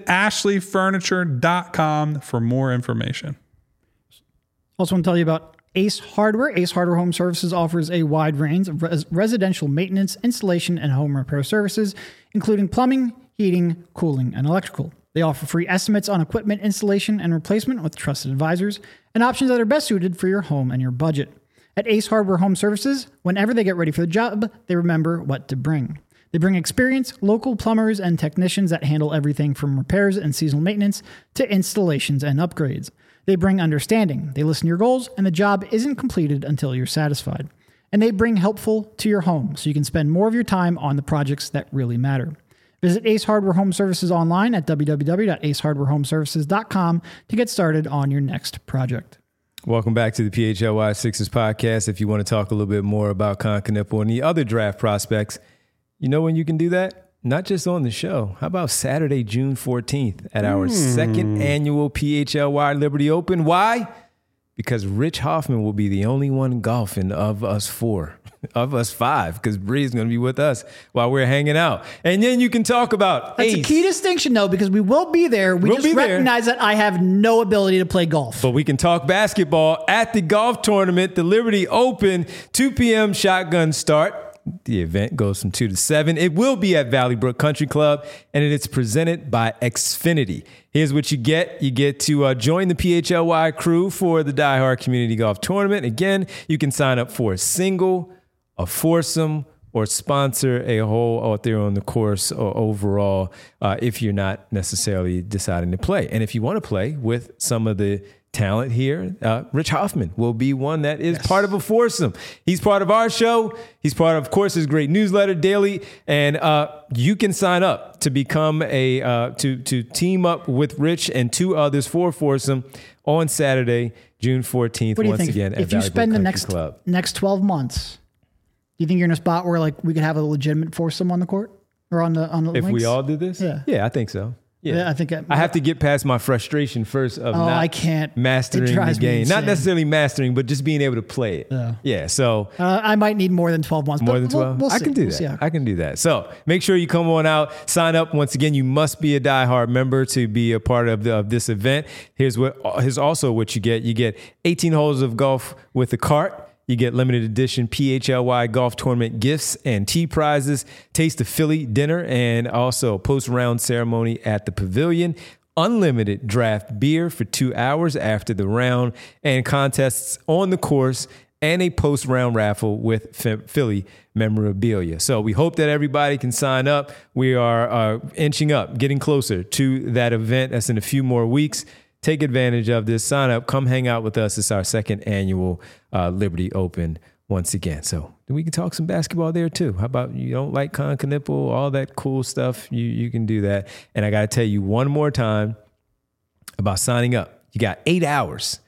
ashleyfurniture.com for more information. Also want to tell you about Ace Hardware. Ace Hardware Home Services offers a wide range of residential maintenance, installation, and home repair services, including plumbing, heating, cooling, and electrical. They offer free estimates on equipment installation and replacement with trusted advisors and options that are best suited for your home and your budget. At Ace Hardware Home Services, whenever they get ready for the job, they remember what to bring. They bring experienced local plumbers and technicians that handle everything from repairs and seasonal maintenance to installations and upgrades. They bring understanding. They listen to your goals, and the job isn't completed until you're satisfied. And they bring helpful to your home so you can spend more of your time on the projects that really matter. Visit Ace Hardware Home Services online at www.acehardwarehomeservices.com to get started on your next project. Welcome back to the PHLY Sixers podcast. If you want to talk a little bit more about Kon Knueppel and the other draft prospects, you know when you can do that? not just on the show. How about Saturday, June 14th at our second annual PHLY Liberty Open? Why? Because Rich Hoffman will be the only one golfing of us five, because Bree's going to be with us while we're hanging out. And then you can talk about That's Ace. a key distinction, though, because we will be there. We just recognize that I have no ability to play golf. But we can talk basketball at the golf tournament, the Liberty Open, 2 p.m. shotgun start. The event goes from 2 to 7. It will be at Valley Brook Country Club, and it is presented by Xfinity. Here's what you get. You get to join the PHLY crew for the Die Hard Community Golf Tournament. Again, you can sign up for a single, a foursome, or sponsor a hole out there on the course or overall if you're not necessarily deciding to play. And if you want to play with some of the talent here, Rich Hoffman will be one that is part of a foursome. He's part of our show. He's part of course, his great newsletter daily. And you can sign up to become to team up with Rich and 2 others for foursome on Saturday, June 14th. What do you once think? again, If you spend the next 12 months, do you think you're in a spot where like we could have a legitimate foursome on the court or on the If links? we all did this? Yeah. I think so. Yeah, I think I have to get past my frustration first of not I can't. mastering It the drives me game. Not insane. necessarily mastering, but just being able to play it. Yeah. So I might need more than 12 months. more but than 12? We'll I see. can do We'll that. see how- I can do that. So make sure you come on out, sign up. Once again, you must be a diehard member to be a part of this event. Here's also what you get. You get 18 holes of golf with a cart. You get limited edition PHLY golf tournament gifts and tee prizes, taste of Philly dinner, and also post-round ceremony at the pavilion. Unlimited draft beer for 2 hours after the round, and contests on the course, and a post-round raffle with Philly memorabilia. So we hope that everybody can sign up. We are inching up, getting closer to that event. That's in a few more weeks. Take advantage of this. Sign up. Come hang out with us. It's our second annual Liberty Open once again. So we can talk some basketball there too. How about you don't like Con Knipple, all that cool stuff? You can do that. And I got to tell you one more time about signing up. You got 8 hours,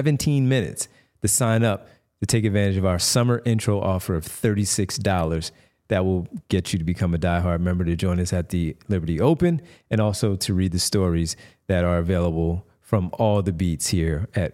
17 minutes to sign up to take advantage of our summer intro offer of $36. That will get you to become a diehard member to join us at the Liberty Open and also to read the stories that are available from all the beats here at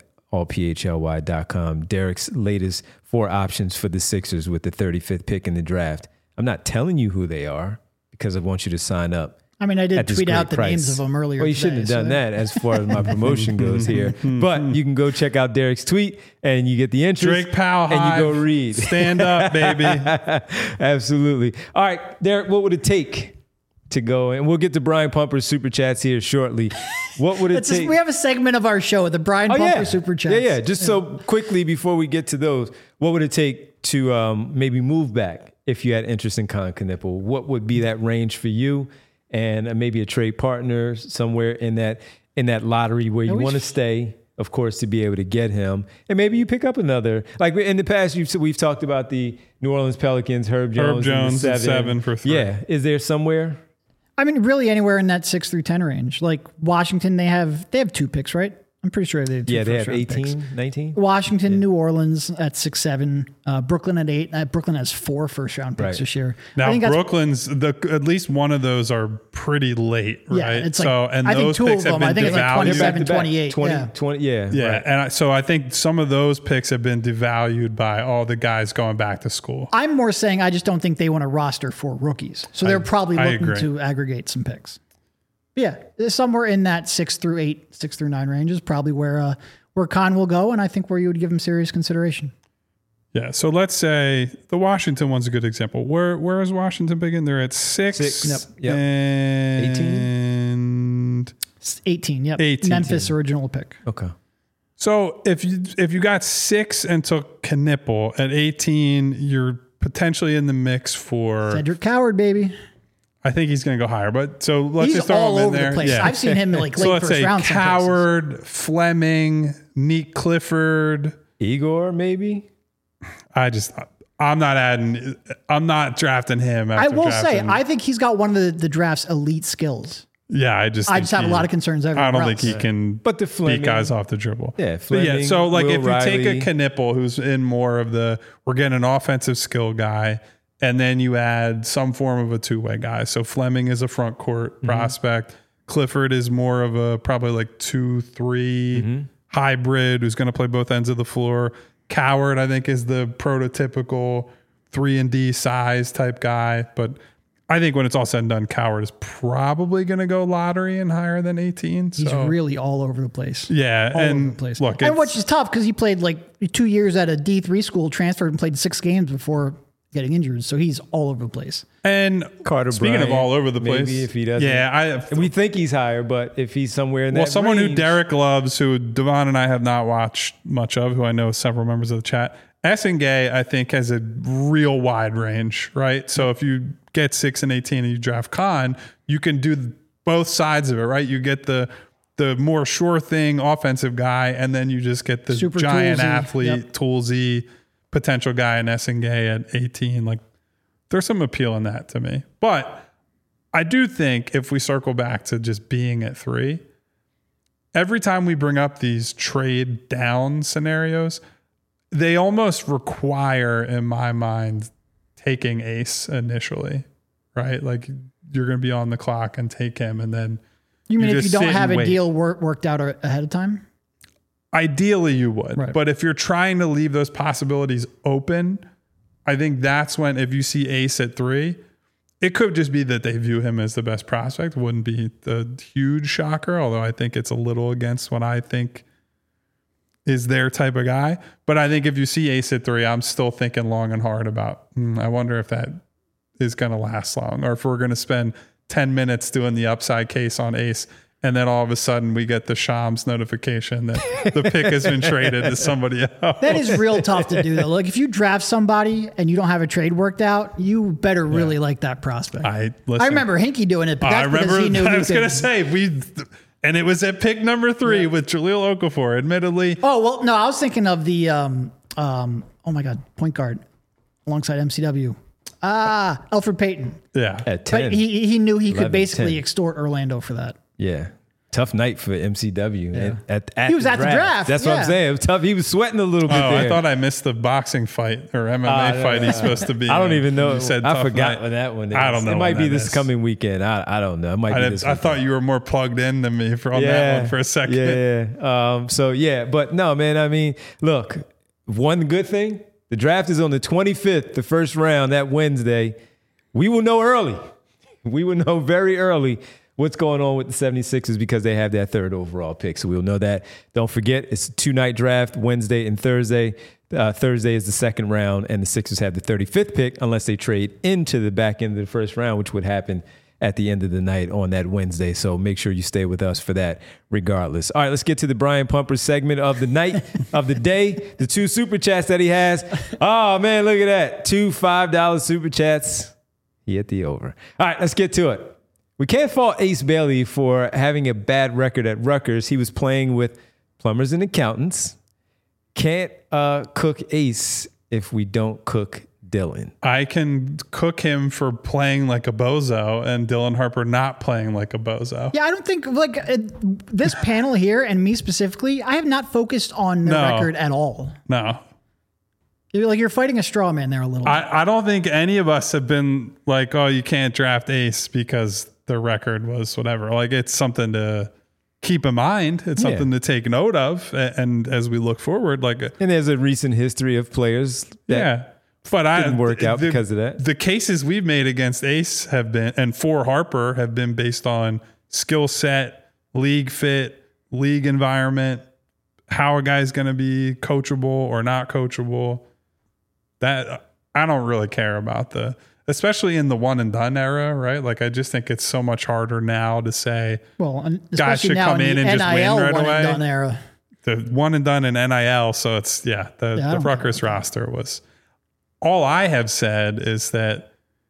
allphly.com. Derek's latest 4 options for the Sixers with the 35th pick in the draft. I'm not telling you who they are because I want you to sign up. I mean, I did tweet out the price. names of them earlier. Well, you shouldn't have done that as far as my promotion goes here. But you can go check out Derek's tweet and you get the interest. Drake Powell and you go read. Stand up, baby. Absolutely. All right, Derek, what would it take to go? And we'll get to Brian Pumper's super chats here shortly. What would it take? We have a segment of our show, the Brian Pumper super chats. Yeah. Just so quickly before we get to those, what would it take to maybe move back if you had interest in Con Knipple? What would be that range for you? And maybe a trade partner somewhere in that lottery where you want to stay, of course, to be able to get him. And maybe you pick up another. Like in the past, we've talked about the New Orleans Pelicans, Herb Jones at 7 for 3. Yeah. Is there somewhere? I mean, really anywhere in that 6 through 10 range. Like Washington, they have 2 picks, right? I'm pretty sure they have 2 Yeah, they have first-round 18, picks. 19. Washington, New Orleans at 6-7, Brooklyn at 8. Brooklyn has 4 first-round picks this year. Now, Brooklyn's at least one of those are pretty late, right? Yeah, it's like, and I think those 2 picks of have them. I been think it's like devalued. 27, 28. 20, yeah. Yeah, and so I think some of those picks have been devalued by all the guys going back to school. I'm more saying I just don't think they want to roster 4 rookies. So they're probably I looking agree. to aggregate some picks. Yeah, somewhere in that 6 through 8, 6 through 9 range is probably where Con will go, and I think where you would give him serious consideration. Yeah, so let's say the Washington one's a good example. Where is Washington big in? They're at 6. Yep. And 18, yep. 18. Memphis original pick. Okay. So if you got 6 and took Knipple at 18, you're potentially in the mix for. Cedric Coward, baby. I think he's going to go higher, but so let's He's just throw all him in over there. the place. Yeah. I've seen him like So late let's first say round. some places. Coward, Fleming, Neat Clifford. Igor, maybe? I'm not drafting him. I After will say, drafting. I think he's got one of the draft's elite skills. Yeah, I just have a lot of concerns everywhere I don't else. think he can But the Fleming, beat guys off the dribble. Yeah, But yeah. Fleming, So like Will if you take Riley. a Knipple who's in more of the, we're getting an offensive skill guy and then you add some form of a two-way guy. So Fleming is a front court prospect. Clifford is more of a probably like 2-3 hybrid who's going to play both ends of the floor. Coward, I think, is the prototypical 3-and-D size type guy. But I think when it's all said and done, Coward is probably going to go lottery and higher than 18. He's really all over the place. Yeah. All over the place. Look, and which is tough because he played like 2 years at a D3 school, transferred and played 6 games before getting injured. So he's all over the place. And Carter speaking Bryant, of all over the place, maybe if he doesn't. Yeah. We think he's higher, but if he's somewhere in that someone range, who Derek loves, who Devon and I have not watched much of, who I know several members of the chat, Essengay, I think, has a real wide range, right? So if you get 6 and 18 and you draft Khan, you can do both sides of it, right? You get the more sure thing offensive guy, and then you just get the Super giant toolsy. athlete, toolsy potential guy in Essengay at 18. Like, there's some appeal in that to me. But I do think if we circle back to just being at 3, every time we bring up these trade down scenarios, they almost require, in my mind, taking Ace initially, right? Like, you're going to be on the clock and take him, and then You mean if just you don't sit have and a wait. deal worked out ahead of time? Ideally, you would. Right. But if you're trying to leave those possibilities open, I think that's when, if you see Ace at 3, it could just be that they view him as the best prospect. Wouldn't be the huge shocker, although I think it's a little against what I think is their type of guy. But I think if you see Ace at 3, I'm still thinking long and hard about, I wonder if that is going to last long, or if we're going to spend 10 minutes doing the upside case on Ace, and then all of a sudden we get the Shams notification that the pick has been traded to somebody else. That is real tough to do, though. Like, if you draft somebody and you don't have a trade worked out, you better really like that prospect. I remember Hinkie doing it, but that's because he knew I he was going to could. say, and it was at pick number 3 with Jahlil Okafor, admittedly. Oh, well, no, I was thinking of the, oh my God, point guard alongside MCW. Alfred Payton. Yeah. at 10. But he knew he 11, could basically 10. extort Orlando for that. Yeah. Tough night for MCW. At He was at the draft, That's what I'm yeah. saying. It was tough. He was sweating a little bit Oh, there. I thought I missed the boxing fight or MMA fight he's supposed to be I don't in. even know. You said I tough forgot night. when that one is. I don't know It might when be that this is. coming weekend. I don't know. It might be this I weekend. thought you were more plugged in than me on that one for a second. Yeah. So, yeah. But no, man, I mean, look, one good thing, the draft is on the 25th, the first round, that Wednesday. We will know early. We will know very early what's going on with the 76ers because they have that 3rd overall pick. So we'll know that. Don't forget, it's a 2-night draft, Wednesday and Thursday. Thursday is the 2nd round, and the Sixers have the 35th pick unless they trade into the back end of the 1st round, which would happen at the end of the night on that Wednesday. So make sure you stay with us for that regardless. All right, let's get to the Brian Pumper segment of the night, of the day, the 2 super chats that he has. Oh, man, look at that. 2 $5 super chats. He hit the over. All right, let's get to it. We can't fault Ace Bailey for having a bad record at Rutgers. He was playing with plumbers and accountants. Can't cook Ace if we don't cook Dylan. I can cook him for playing like a bozo and Dylan Harper not playing like a bozo. Yeah, I don't think, like, this panel here and me specifically, I have not focused on the No. record at all. No. You're fighting a straw man there a little bit. I don't think any of us have been like, oh, you can't draft Ace because the record was whatever. Like, it's something to keep in mind. It's something to take note of. And as we look forward, like, And there's a recent history of players that yeah. But I didn't work out because of that. The cases we've made against Ace have been, and for Harper, have been based on skill set, league fit, league environment, how a guy's going to be coachable or not coachable. That I don't really care about especially in the one and done era, right? Like, I just think it's so much harder now to say, well, and guys especially should now come in the and just win NIL right one away. and done era. The one and done in NIL. So it's, the don't Rutgers roster was, all I have said is that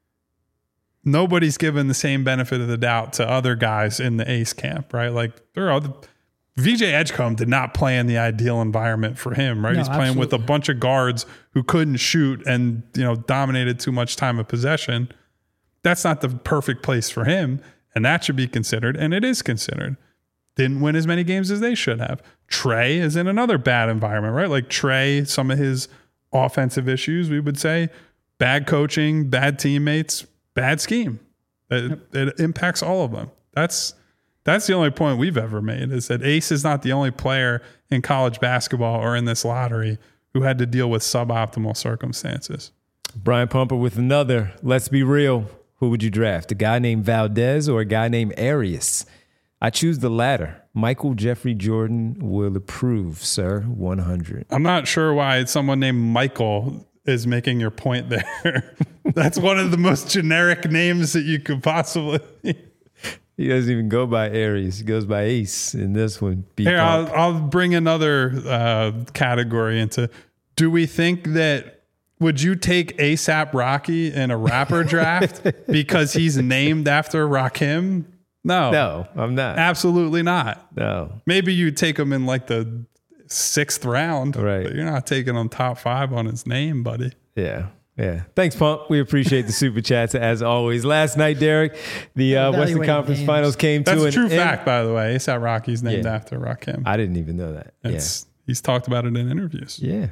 nobody's given the same benefit of the doubt to other guys in the Ace camp, right? Like, there are VJ Edgecombe did not play in the ideal environment for him, right? No, He's playing with a absolutely. bunch of guards who couldn't shoot and, dominated too much time of possession. That's not the perfect place for him, and that should be considered, and it is considered. Didn't win as many games as they should have. Trey is in another bad environment, right? Like, Trey, some of his offensive issues, we would say, bad coaching, bad teammates, bad scheme. It impacts all of them. That's the only point we've ever made, is that Ace is not the only player in college basketball or in this lottery who had to deal with suboptimal circumstances. Brian Pumper with another. Let's be real. Who would you draft? A guy named Valdez or a guy named Arias? I choose the latter. Michael Jeffrey Jordan will approve, sir. 100. I'm not sure why someone named Michael is making your point there. That's one of the most generic names that you could possibly. He doesn't even go by Aries. He goes by Ace in this one. Here, I'll bring another category into. Do we think that, would you take ASAP Rocky in a rapper draft because he's named after Rakim? No, I'm not. Absolutely not. No. Maybe you take him in like the 6th round. Right. But you're not taking him top 5 on his name, buddy. Yeah. Thanks, Pump. We appreciate the super chats as always. Last night, Derek, the Western Conference Finals came to an end. That's a true fact, by the way. ASAP Rocky's named after Rakim. I didn't even know that. He's talked about it in interviews. Yeah.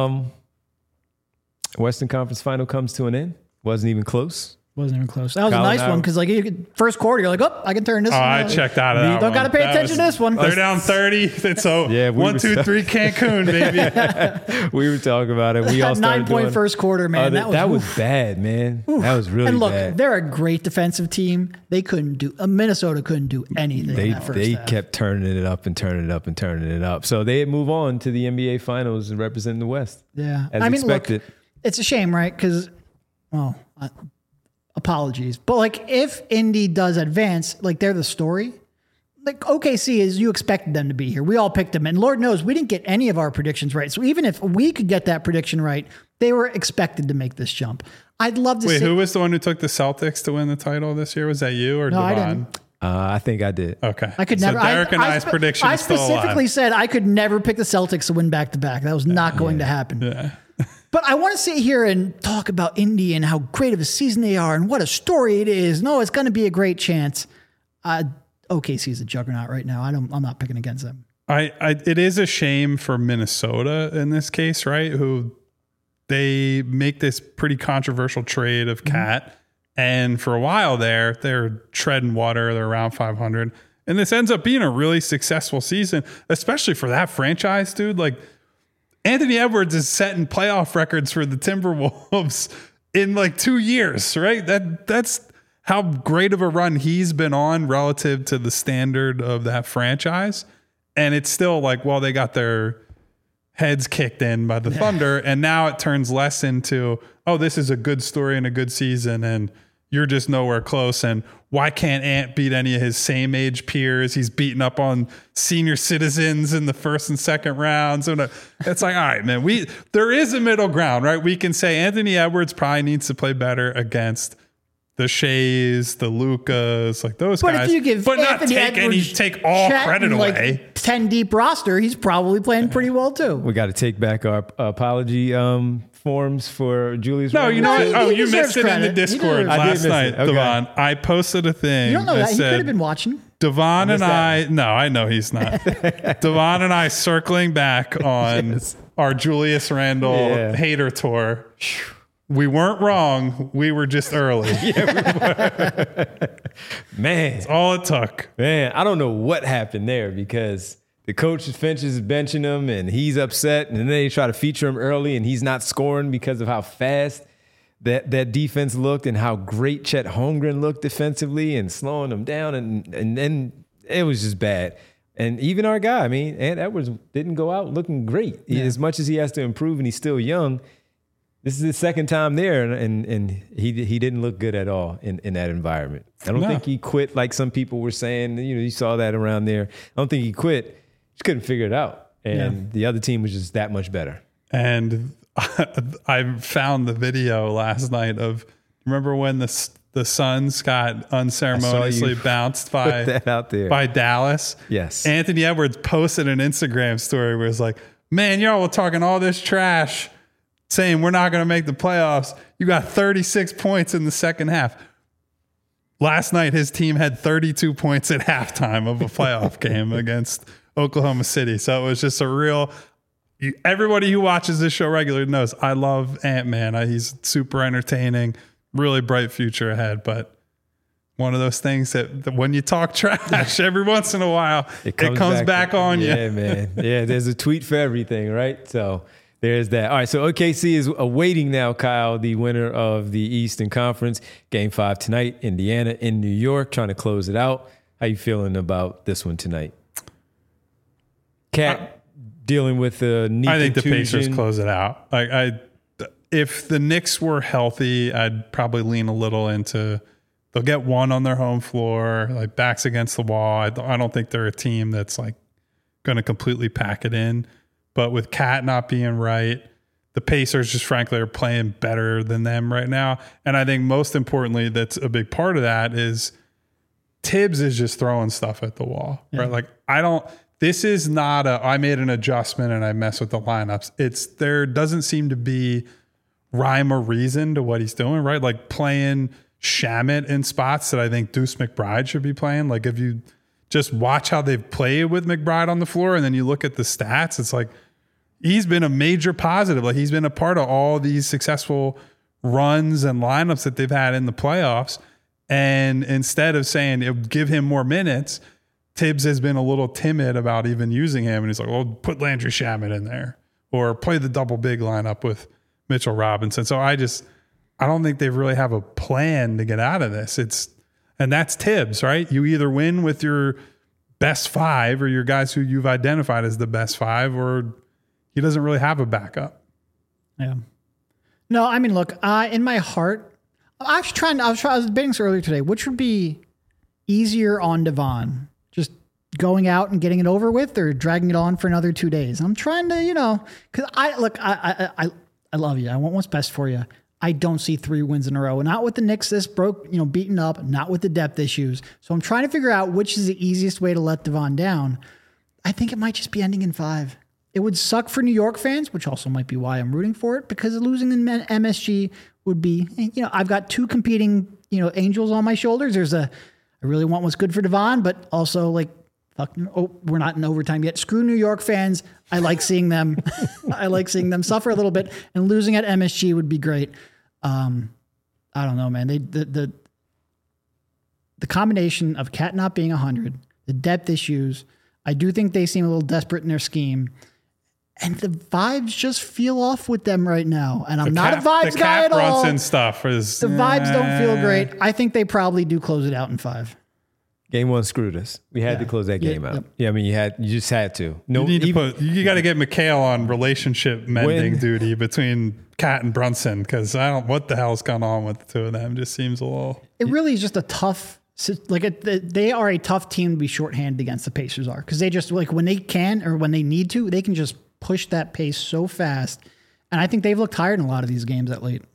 Western Conference Final comes to an end. Wasn't even close. Wasn't even close. That was a nice one because, like, first quarter, you're like, oh, I can turn this one. I checked out of that. Don't got to pay attention to this one. They're down 30. It's so 1, 2, 3 Cancun, baby. We were talking about it. We all started 9-point first quarter, man. That was bad, man. That was really bad. And look, they're a great defensive team. They couldn't do. Minnesota couldn't do anything. They kept turning it up and turning it up and turning it up. So they move on to the NBA Finals and representing the West. Yeah, as expected. Look, it's a shame, right? Because, apologies, but like if Indy does advance, like they're the story. Like OKC is, you expected them to be here. We all picked them, and Lord knows we didn't get any of our predictions right. So even if we could get that prediction right, they were expected to make this jump. I'd love to. Wait, who was the one who took the Celtics to win the title this year? Was that you or no, Devon? I didn't. I think I did. Okay, I could never. Derek and I's prediction. I specifically said I could never pick the Celtics to win back to back. That was not going to happen. Yeah. But I want to sit here and talk about Indy and how great of a season they are and what a story it is. No, it's going to be a great chance. OKC is a juggernaut right now. I'm not picking against them. It is a shame for Minnesota in this case, right? Who they make this pretty controversial trade of Cat, and for a while they're treading water. They're around 500, and this ends up being a really successful season, especially for that franchise, dude. Like, Anthony Edwards is setting playoff records for the Timberwolves in like 2 years, right? That's how great of a run he's been on relative to the standard of that franchise. And it's still like, well, they got their heads kicked in by the Thunder, and now it turns less into, oh, this is a good story and a good season, and you're just nowhere close. And why can't Ant beat any of his same age peers? He's beating up on senior citizens in the first and second rounds. And it's like, all right, man, there is a middle ground, right? We can say Anthony Edwards probably needs to play better against the Shays, the Lucas, like those guys. If you give Anthony Edwards take all credit away. Like 10 deep roster, he's probably playing pretty well too. We got to take back our apology forms for Julius. No, you know what? No, you missed it in the Discord last night, Devon. I posted a thing. You don't know that. He said, could have been watching. Devon and I know he's not. Devon and I circling back on our Julius Randle hater tour. We weren't wrong. We were just early. Man. That's all it took. Man, I don't know what happened there because the coach finishes benching him and he's upset, and then they try to feature him early and he's not scoring because of how fast that defense looked and how great Chet Holmgren looked defensively and slowing them down, and then it was just bad. And even our guy, Ant Edwards didn't go out looking great. As much as he has to improve and he's still young, this is his second time there, and he didn't look good at all in that environment. I don't think he quit like some people were saying. You saw that around there. I don't think he quit. Just couldn't figure it out. And the other team was just that much better. And I found the video last night of, remember when the Suns got unceremoniously bounced by Dallas? Yes. Anthony Edwards posted an Instagram story where it's like, man, y'all were talking all this trash saying we're not going to make the playoffs. You got 36 points in the second half. Last night, his team had 32 points at halftime of a playoff game against Oklahoma City. So it was just a real everybody who watches this show regularly knows I love Ant-Man. He's super entertaining, really bright future ahead. But one of those things that when you talk trash every once in a while, it comes back on you. Yeah, man. Yeah, there's a tweet for everything, right? So there's that. All right, so OKC is awaiting now, Kyle, the winner of the Eastern Conference. Game 5 tonight, Indiana in New York, trying to close it out. How you feeling about this one tonight? Cat dealing with the knee I think contusion. the Pacers close it out. If the Knicks were healthy, I'd probably lean a little into they'll get one on their home floor, like backs against the wall. I don't think they're a team that's like going to completely pack it in. But with Cat not being right, the Pacers just frankly are playing better than them right now. And I think most importantly, that's a big part of that is Tibbs is just throwing stuff at the wall, right? Like this is not I made an adjustment and I mess with the lineups. There doesn't seem to be rhyme or reason to what he's doing, right? Like playing Shamet in spots that I think Deuce McBride should be playing. Like if you just watch how they've played with McBride on the floor and then you look at the stats, it's like he's been a major positive. Like he's been a part of all these successful runs and lineups that they've had in the playoffs. And instead of saying give him more minutes, Tibbs has been a little timid about even using him. And he's like, well, put Landry Shamet in there or play the double big lineup with Mitchell Robinson. So I don't think they really have a plan to get out of this. And that's Tibbs, right? You either win with your best 5 or your guys who you've identified as the best 5, or he doesn't really have a backup. Yeah. No, I mean, look, in my heart, I was debating this earlier today. Which would be easier on Devon? Just going out and getting it over with, or dragging it on for another 2 days? I'm trying to, because I love you. I want what's best for you. I don't see 3 wins in a row. Not with the Knicks this beaten up, not with the depth issues. So I'm trying to figure out which is the easiest way to let Devon down. I think it might just be ending in 5. It would suck for New York fans, which also might be why I'm rooting for it, because losing in MSG would be, I've got 2 competing, angels on my shoulders. There's I really want what's good for Devon, but also like, we're not in overtime yet. Screw New York fans. I like seeing them. I like seeing them suffer a little bit, and losing at MSG would be great. I don't know, man. The combination of Cat not being 100, the depth issues. I do think they seem a little desperate in their scheme, and the vibes just feel off with them right now. And I'm not a vibes guy at all. The Brunson stuff is the vibes don't feel great. I think they probably do close it out in 5. Game 1 screwed us. We had to close that game out. Yep. Yeah, I mean, you just had to. No, you got to get McHale on relationship mending duty between Cat and Brunson, because what the hell's going on with the 2 of them? Just seems a little. It really is just a tough. They are a tough team to be shorthanded against. The Pacers are, because they just when they can or when they need to, they can just push that pace so fast. And I think they've looked tired in a lot of these games at late.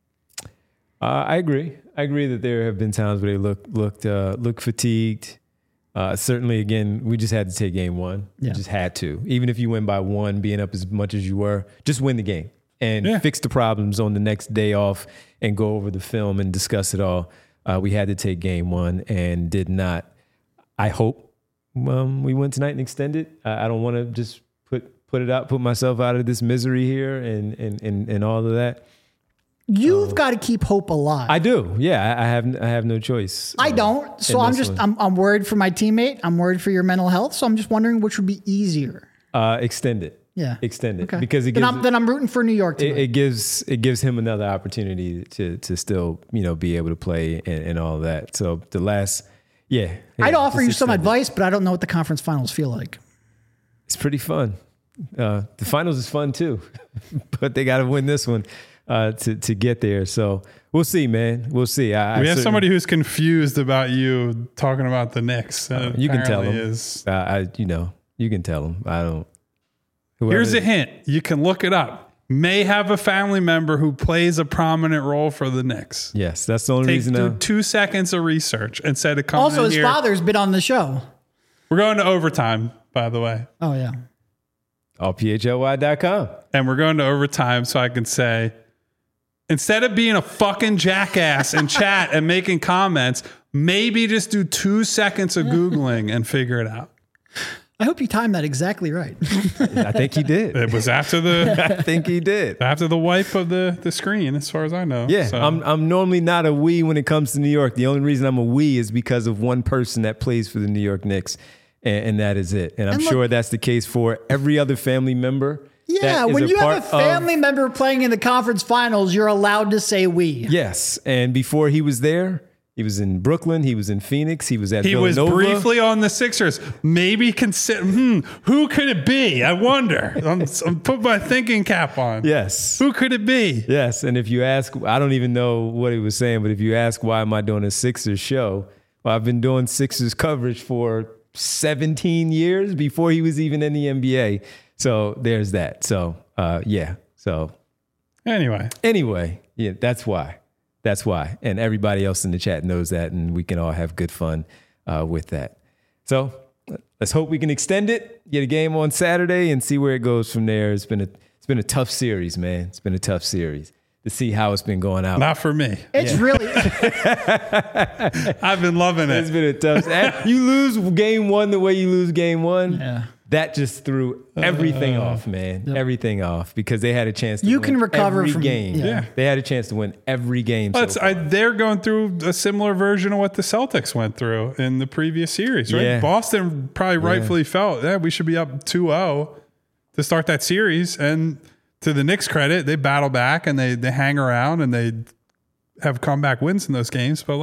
I agree. I agree that there have been times where they look fatigued. Certainly, again, we just had to take game 1. Yeah. We just had to. Even if you win by 1, being up as much as you were, just win the game and fix the problems on the next day off and go over the film and discuss it all. We had to take game 1 and did not. I hope we win tonight and extend it. I don't want to just put myself out of this misery here and all of that. You've got to keep hope alive. I do. Yeah, I have no choice. I don't. So I'm worried for my teammate. I'm worried for your mental health. So I'm just wondering which would be easier. Extend it. Yeah. Extend it. Okay. Because then I'm rooting for New York tonight. It gives him another opportunity to still, be able to play and all of that. So the last I'd offer you some advice, but I don't know what the conference finals feel like. It's pretty fun. The finals is fun too. But they got to win this one. To get there. So we'll see, man. We'll see. We have somebody who's confused about you talking about the Knicks. You can tell him. You can tell him. I don't. Here's a hint. You can look it up. May have a family member who plays a prominent role for the Knicks. Yes, that's the only reason. Do 2 seconds of research instead of coming Also, his father's been on the show. We're going to overtime, by the way. Oh, yeah. allphly.com. And we're going to overtime so I can say, instead of being a fucking jackass and chat and making comments, maybe just do 2 seconds of Googling and figure it out. I hope you timed that exactly right. I think he did. It was after the I think he did. after the wipe of the screen, as far as I know. Yeah, So, I'm normally not a we when it comes to New York. The only reason I'm a we is because of one person that plays for the New York Knicks, and that is it. And I'm sure that's the case for every other family member. Yeah, when you have a family member playing in the conference finals, you're allowed to say we. Yes, and before he was there, he was in Brooklyn, he was in Phoenix, he was at Villanova. was briefly on the Sixers. Maybe consider, who could it be? I wonder. I'm put my thinking cap on. Yes. Who could it be? Yes, and if you ask, I don't even know what he was saying, but if you ask why am I doing a Sixers show, well, I've been doing Sixers coverage for 17 years before he was even in the NBA. So there's that. So, yeah. So anyway, yeah, that's why. That's why. And everybody else in the chat knows that, and we can all have good fun with that. So let's hope we can extend it, get a game on Saturday, and see where it goes from there. It's been a tough series, man. It's been a tough series to see how it's been going out. Not for me. It's really... I've been loving it. It's been a tough... You lose game one the way you lose game one. Yeah. That just threw everything off, man. Yep. Everything off because they had a chance to you win can recover every from game. Yeah. They had a chance to win every game. They're going through a similar version of what the Celtics went through in the previous series, right? Yeah. Boston probably rightfully felt, we should be up 2-0 to start that series. And to the Knicks' credit, they battle back and they hang around and they have comeback wins in those games. But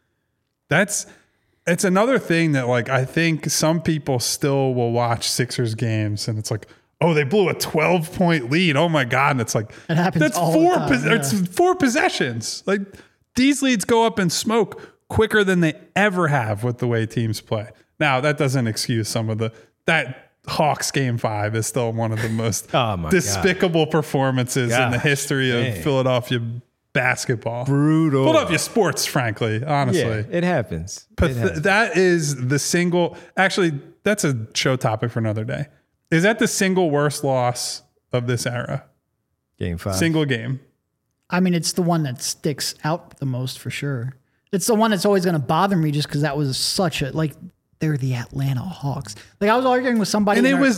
it's another thing that I think some people still will watch Sixers games and it's like, oh, they blew a 12-point lead. Oh my God. And it's like, it happens that's all four, the time, it's 4 possessions. Like these leads go up in smoke quicker than they ever have with the way teams play. Now that doesn't excuse some of that Hawks game 5 is still one of the most despicable performances in the history of Philadelphia basketball. Brutal. Philadelphia sports, frankly, honestly. Yeah, it happens. That is the single, actually, that's a show topic for another day. Is that the single worst loss of this era? Game 5. Single game. I mean, it's the one that sticks out the most for sure. It's the one that's always going to bother me just because that was such a, they're the Atlanta Hawks. I was arguing with somebody. And it was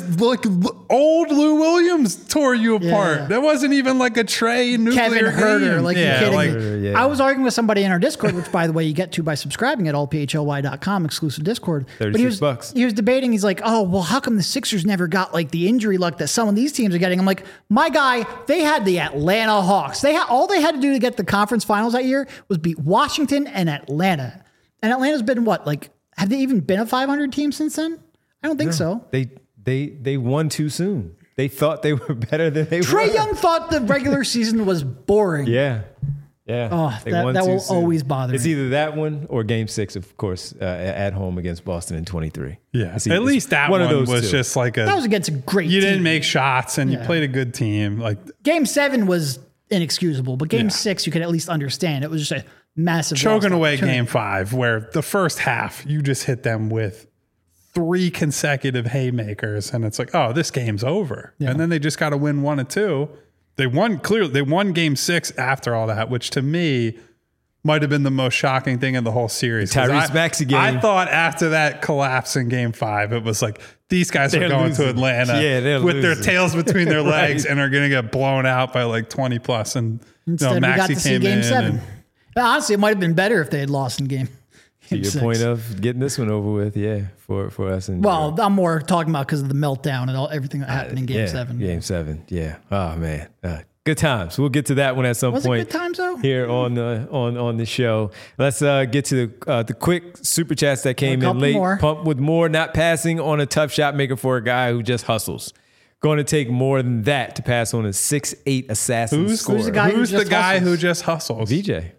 old Lou Williams tore you apart. Yeah. That wasn't even like a Trey nuclear Kevin Herter. game. You're kidding me. I was arguing with somebody in our Discord, which by the way, you get to by subscribing at allphly.com, exclusive Discord. $36. He was debating. He's like, oh, well, how come the Sixers never got the injury luck that some of these teams are getting? I'm like, my guy, they had the Atlanta Hawks. All they had to do to get the conference finals that year was beat Washington and Atlanta. And Atlanta's been what? Have they even been a 500 team since then? I don't think so. They won too soon. They thought they were better than they were. Trae Young thought the regular season was boring. Yeah. Oh, that will always bother me. It's either that one or game 6, of course, at home against Boston in 23. Yeah. At least that one of those was just that was against a great team. You didn't make shots and you played a good team. Game 7 was inexcusable, but game 6 you could at least understand. It was just a massive choking away game 5 where the first half you just hit them with 3 consecutive haymakers and it's like, oh, this game's over. And then they just got to win 1 and 2. They won game 6 after all that, which to me might have been the most shocking thing in the whole series. Tyrese Maxey game. I thought after that collapse in game 5, it was like, these guys are going to Atlanta with their tails between their legs and are going to get blown out by 20 plus. And instead, Maxey we got to see game 7. Honestly, it might have been better if they had lost in game. To your 6. Point of getting this one over with, for us. I'm more talking about because of the meltdown and everything that happened in game 7. Game 7, yeah. Oh man, good times. We'll get to that one at some point. Was it good times though? Here on the show. Let's get to the quick super chats that came in late. Pump with more, not passing on a tough shot maker for a guy who just hustles. Going to take more than that to pass on a 6'8" assassin scorer. Who's the guy who just hustles? VJ.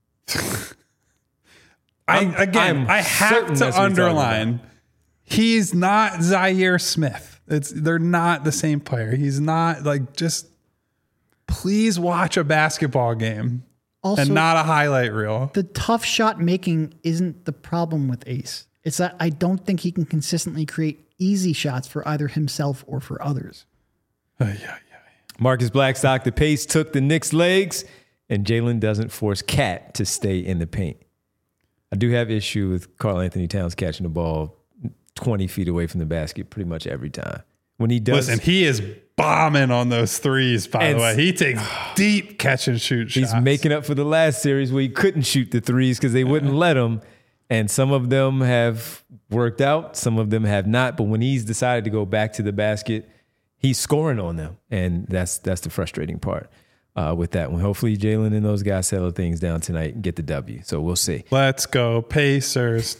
I have to underline, he's not Zaire Smith. They're not the same player. He's not just please watch a basketball game also, and not a highlight reel. The tough shot making isn't the problem with Ace. It's that I don't think he can consistently create easy shots for either himself or for others. Marcus Blackstock, the pace took the Knicks' legs, and Jalen doesn't force Cat to stay in the paint. I do have issue with Karl Anthony Towns catching the ball 20 feet away from the basket pretty much every time. When he does, listen, he is bombing on those threes, by the way. He takes deep catch and shoot shots. He's making up for the last series where he couldn't shoot the threes because they wouldn't let him. And some of them have worked out, some of them have not. But when he's decided to go back to the basket, he's scoring on them. And that's the frustrating part with that one. Hopefully Jalen and those guys settle things down tonight and get the W. So we'll see. Let's go Pacers.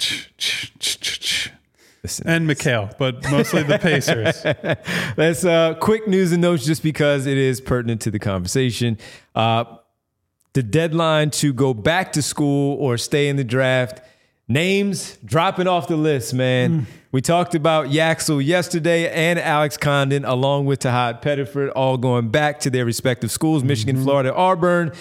Listen, and Mikhail, but mostly the Pacers. That's quick news and notes just because it is pertinent to the conversation. The deadline to go back to school or stay in the draft, names dropping off the list, man. We talked about Yaxel yesterday and Alex Condon, along with Tahad Pettiford, all going back to their respective schools, Michigan, Florida, Auburn.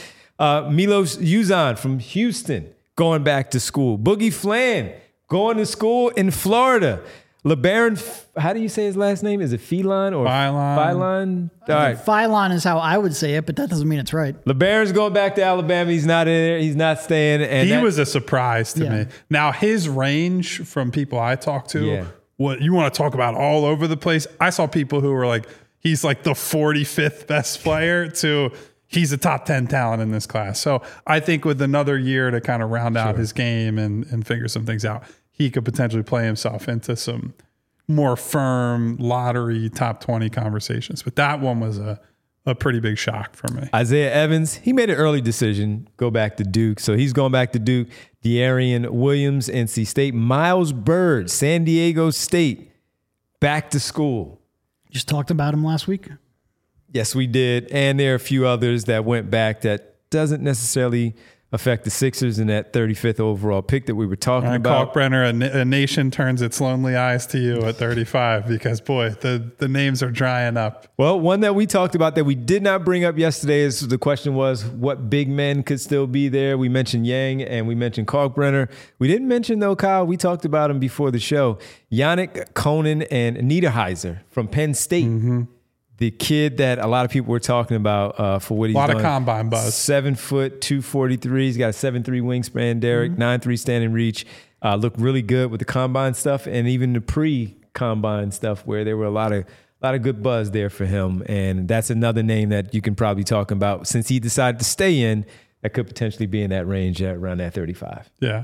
Milos Uzan from Houston going back to school. Boogie Flan going to school in Florida. LeBaron, how do you say his last name? Is it Feline or Philon? All right. Philon is how I would say it, but that doesn't mean it's right. LeBaron's going back to Alabama. He's not in there. He's not staying. And he was a surprise to me. Now, his range from people I talked to, what you want to talk about all over the place. I saw people who were like, he's like the 45th best player to he's a top 10 talent in this class. So I think with another year to kind of round out his game and figure some things out, he could potentially play himself into some more firm lottery top 20 conversations. But that one was a pretty big shock for me. Isaiah Evans, he made an early decision, go back to Duke. So he's going back to Duke. De'Arian Williams, NC State. Miles Byrd, San Diego State, back to school. Just talked about him last week. Yes, we did. And there are a few others that went back that doesn't necessarily affect the Sixers in that 35th overall pick that we were talking about. Kalkbrenner, a nation turns its lonely eyes to you at 35 because, boy, the names are drying up. Well, one that we talked about that we did not bring up yesterday is the question was what big men could still be there. We mentioned Yang and we mentioned Kalkbrenner. We didn't mention, though, Kyle, we talked about him before the show, Yannick Conan and Niederheiser from Penn State. Mm-hmm. The kid that a lot of people were talking about for what he's done. A lot of combine buzz. 7 foot, 243. He's got a 7'3" wingspan, Derek, 9'3" standing reach. Looked really good with the combine stuff and even the pre-combine stuff where there were a lot of good buzz there for him. And that's another name that you can probably talk about since he decided to stay in that could potentially be in that range at around that 35. Yeah.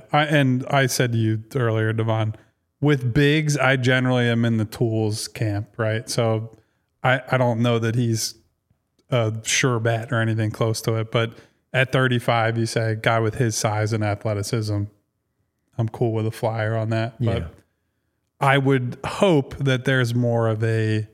I said to you earlier, Devon, with bigs, I generally am in the tools camp, right? So I don't know that he's a sure bet or anything close to it, but at 35, you say a guy with his size and athleticism, I'm cool with a flyer on that. Yeah. But I would hope that there's more of a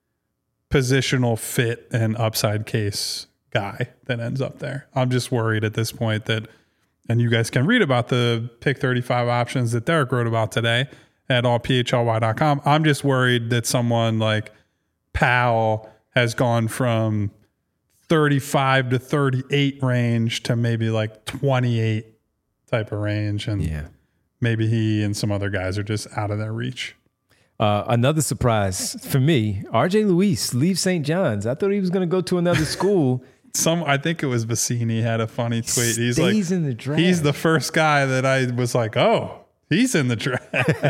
positional fit and upside case guy that ends up there. I'm just worried at this point that, and you guys can read about the pick 35 options that Derek wrote about today at allphly.com. I'm just worried that someone like Powell has gone from 35 to 38 range to maybe like 28 type of range. And maybe he and some other guys are just out of their reach. Another surprise for me, RJ Luis leaves St. John's. I thought he was going to go to another school. I think it was Bassini had a funny tweet. He's like, in the draft. He's the first guy that I was like, oh, he's in the draft.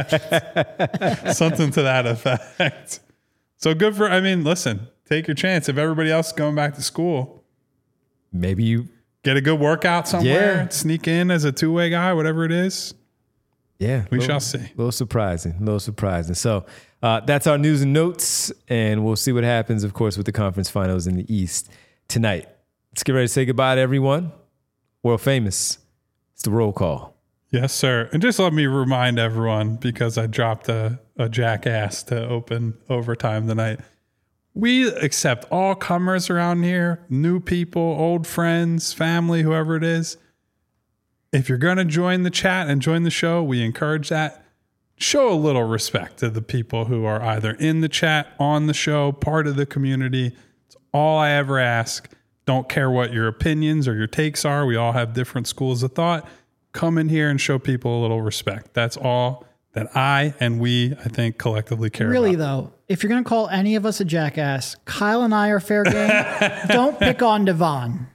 Something to that effect. So good listen, take your chance. If everybody else is going back to school, maybe you get a good workout somewhere, sneak in as a two-way guy, whatever it is. Yeah. We shall see. A little surprising. So that's our news and notes, and we'll see what happens, of course, with the conference finals in the East tonight. Let's get ready to say goodbye to everyone. World famous. It's the roll call. Yes, sir. And just let me remind everyone, because I dropped a jackass to open overtime tonight. We accept all comers around here, new people, old friends, family, whoever it is. If you're going to join the chat and join the show, we encourage that. Show a little respect to the people who are either in the chat, on the show, part of the community. It's all I ever ask. Don't care what your opinions or your takes are. We all have different schools of thought. Come in here and show people a little respect. That's all that I think, collectively care about. Really, though, if you're going to call any of us a jackass, Kyle and I are fair game. Don't pick on Devon.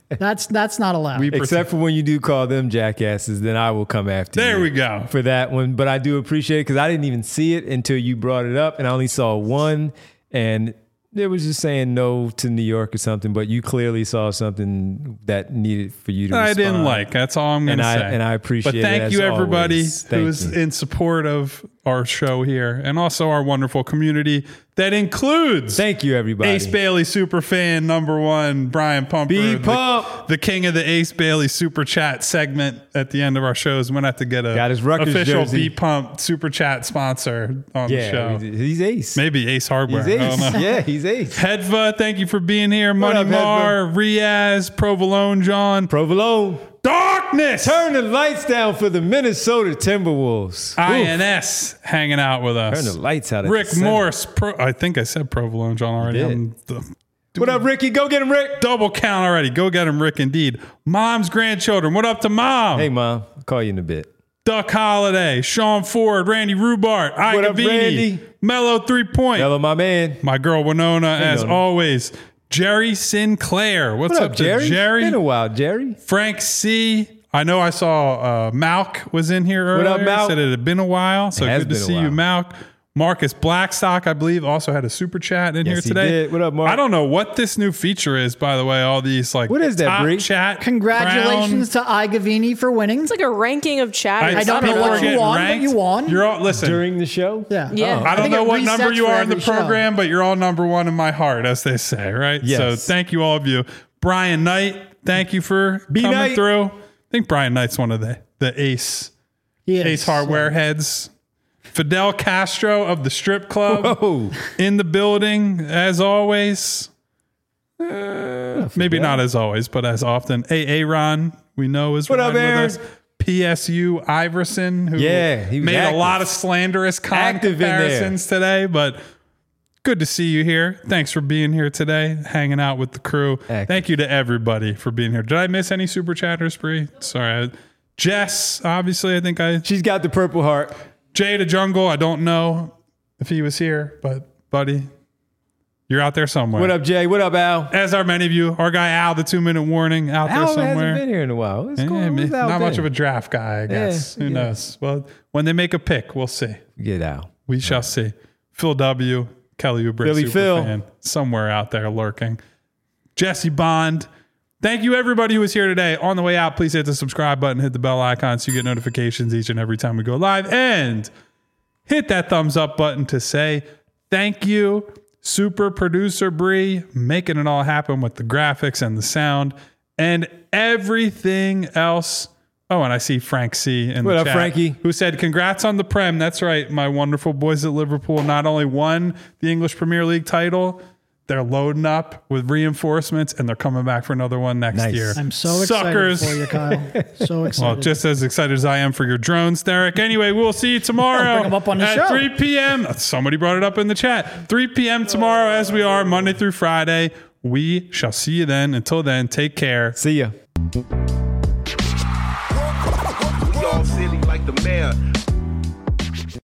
That's not allowed. Except for when you do call them jackasses, then I will come after you. There we go. For that one. But I do appreciate it because I didn't even see it until you brought it up, and I only saw one, and it was just saying no to New York or something, but you clearly saw something that needed for you to respond. I didn't like. That's all I'm going to say. And I appreciate it. But thank you, everybody who's in support of our show here, and also our wonderful community that includes. Thank you, everybody. Ace Bailey super fan #1, Brian Pumper, the king of the Ace Bailey super chat segment at the end of our shows. We're gonna have to get a his Rutgers official jersey. B Pump super chat sponsor on the show. He's Ace. Maybe Ace Hardware. He's Ace. I don't know. Yeah, he's Ace. Hedva, thank you for being here. What Money up, Mar, Riaz, Provolone John. Provolone. Darkness. Turn the lights down for the Minnesota Timberwolves. INS hanging out with us. Turn the lights out. Rick Morse. I think I said Provolone John already. What up, Ricky? Go get him, Rick. Double count already. Go get him, Rick, indeed. Mom's grandchildren. What up to Mom? Hey, Mom. I'll call you in a bit. Duck Holiday, Sean Ford, Randy Rubart, What up, Randy? Mellow 3 Point. Hello, my man. My girl Winona, as always. Jerry Sinclair. What's up, Jerry? Jerry? Been a while, Jerry. Frank C. I know I saw Malk was in here earlier. What up, Malk? Said it had been a while, so It has good to been a see you, while. Malk. Marcus Blackstock, I believe, also had a super chat in here Yes, he today. did. What up, Mark? I don't know what this new feature is, by the way. All these like What is that, top Bree? chat. Congratulations to Igavini for winning. It's like a ranking of chatters. I don't know people what are you getting won, but ranked. you won. You're all listen. During the show? Yeah. Yeah. I don't think know it what number resets you for are in the every show. program, but you're all #1 in my heart, as they say, right? Yes. So thank you, all of you. Brian Knight, thank you for coming Knight. through. I think Brian Knight's one of the Ace He is. Ace Hardware heads. Fidel Castro of the Strip Club Whoa. in the building, as always. Maybe not as always, but as often. Aaron, we know, is What up, riding with Aaron? us. PSU Iverson, who Yeah, he was made active. a lot of slanderous Active in there. comparisons today, but good to see you here. Thanks for being here today, hanging out with the crew. Active. Thank you to everybody for being here. Did I miss any super chatters, Bree? Sorry. Jess, obviously, I think She's got the Purple Heart. Jay the Jungle, I don't know if he was here, but buddy, you're out there somewhere. What up, Jay? What up, Al? As are many of you. Our guy Al, the 2-minute warning, out there Al somewhere. hasn't been here in a while. What's going on? Yeah, What's Al not much been? of a draft guy, I guess. Who yeah. knows? Well, when they make a pick, we'll see. Get Al. We shall see. Phil W., Kelly Oubre, Philly super Phil. fan, somewhere out there lurking. Jesse Bond. Thank you, everybody who was here today. On the way out, please hit the subscribe button, hit the bell icon so you get notifications each and every time we go live. And hit that thumbs up button to say thank you, super producer Bree, making it all happen with the graphics and the sound and everything else. Oh, and I see Frank C. in What the up, chat, Frankie? who said, congrats on the Prem. That's right. My wonderful boys at Liverpool not only won the English Premier League title, they're loading up with reinforcements and they're coming back for another one next Nice. year. I'm so Suckers. excited for you, Kyle. So excited. Well, just as excited as I am for your drones, Derek. Anyway, we'll see you tomorrow Bring 'em up on the at show. 3 p.m. Somebody brought it up in the chat. 3 p.m. tomorrow, as we are Monday through Friday. We shall see you then. Until then, take care. See ya. We all silly like the mayor.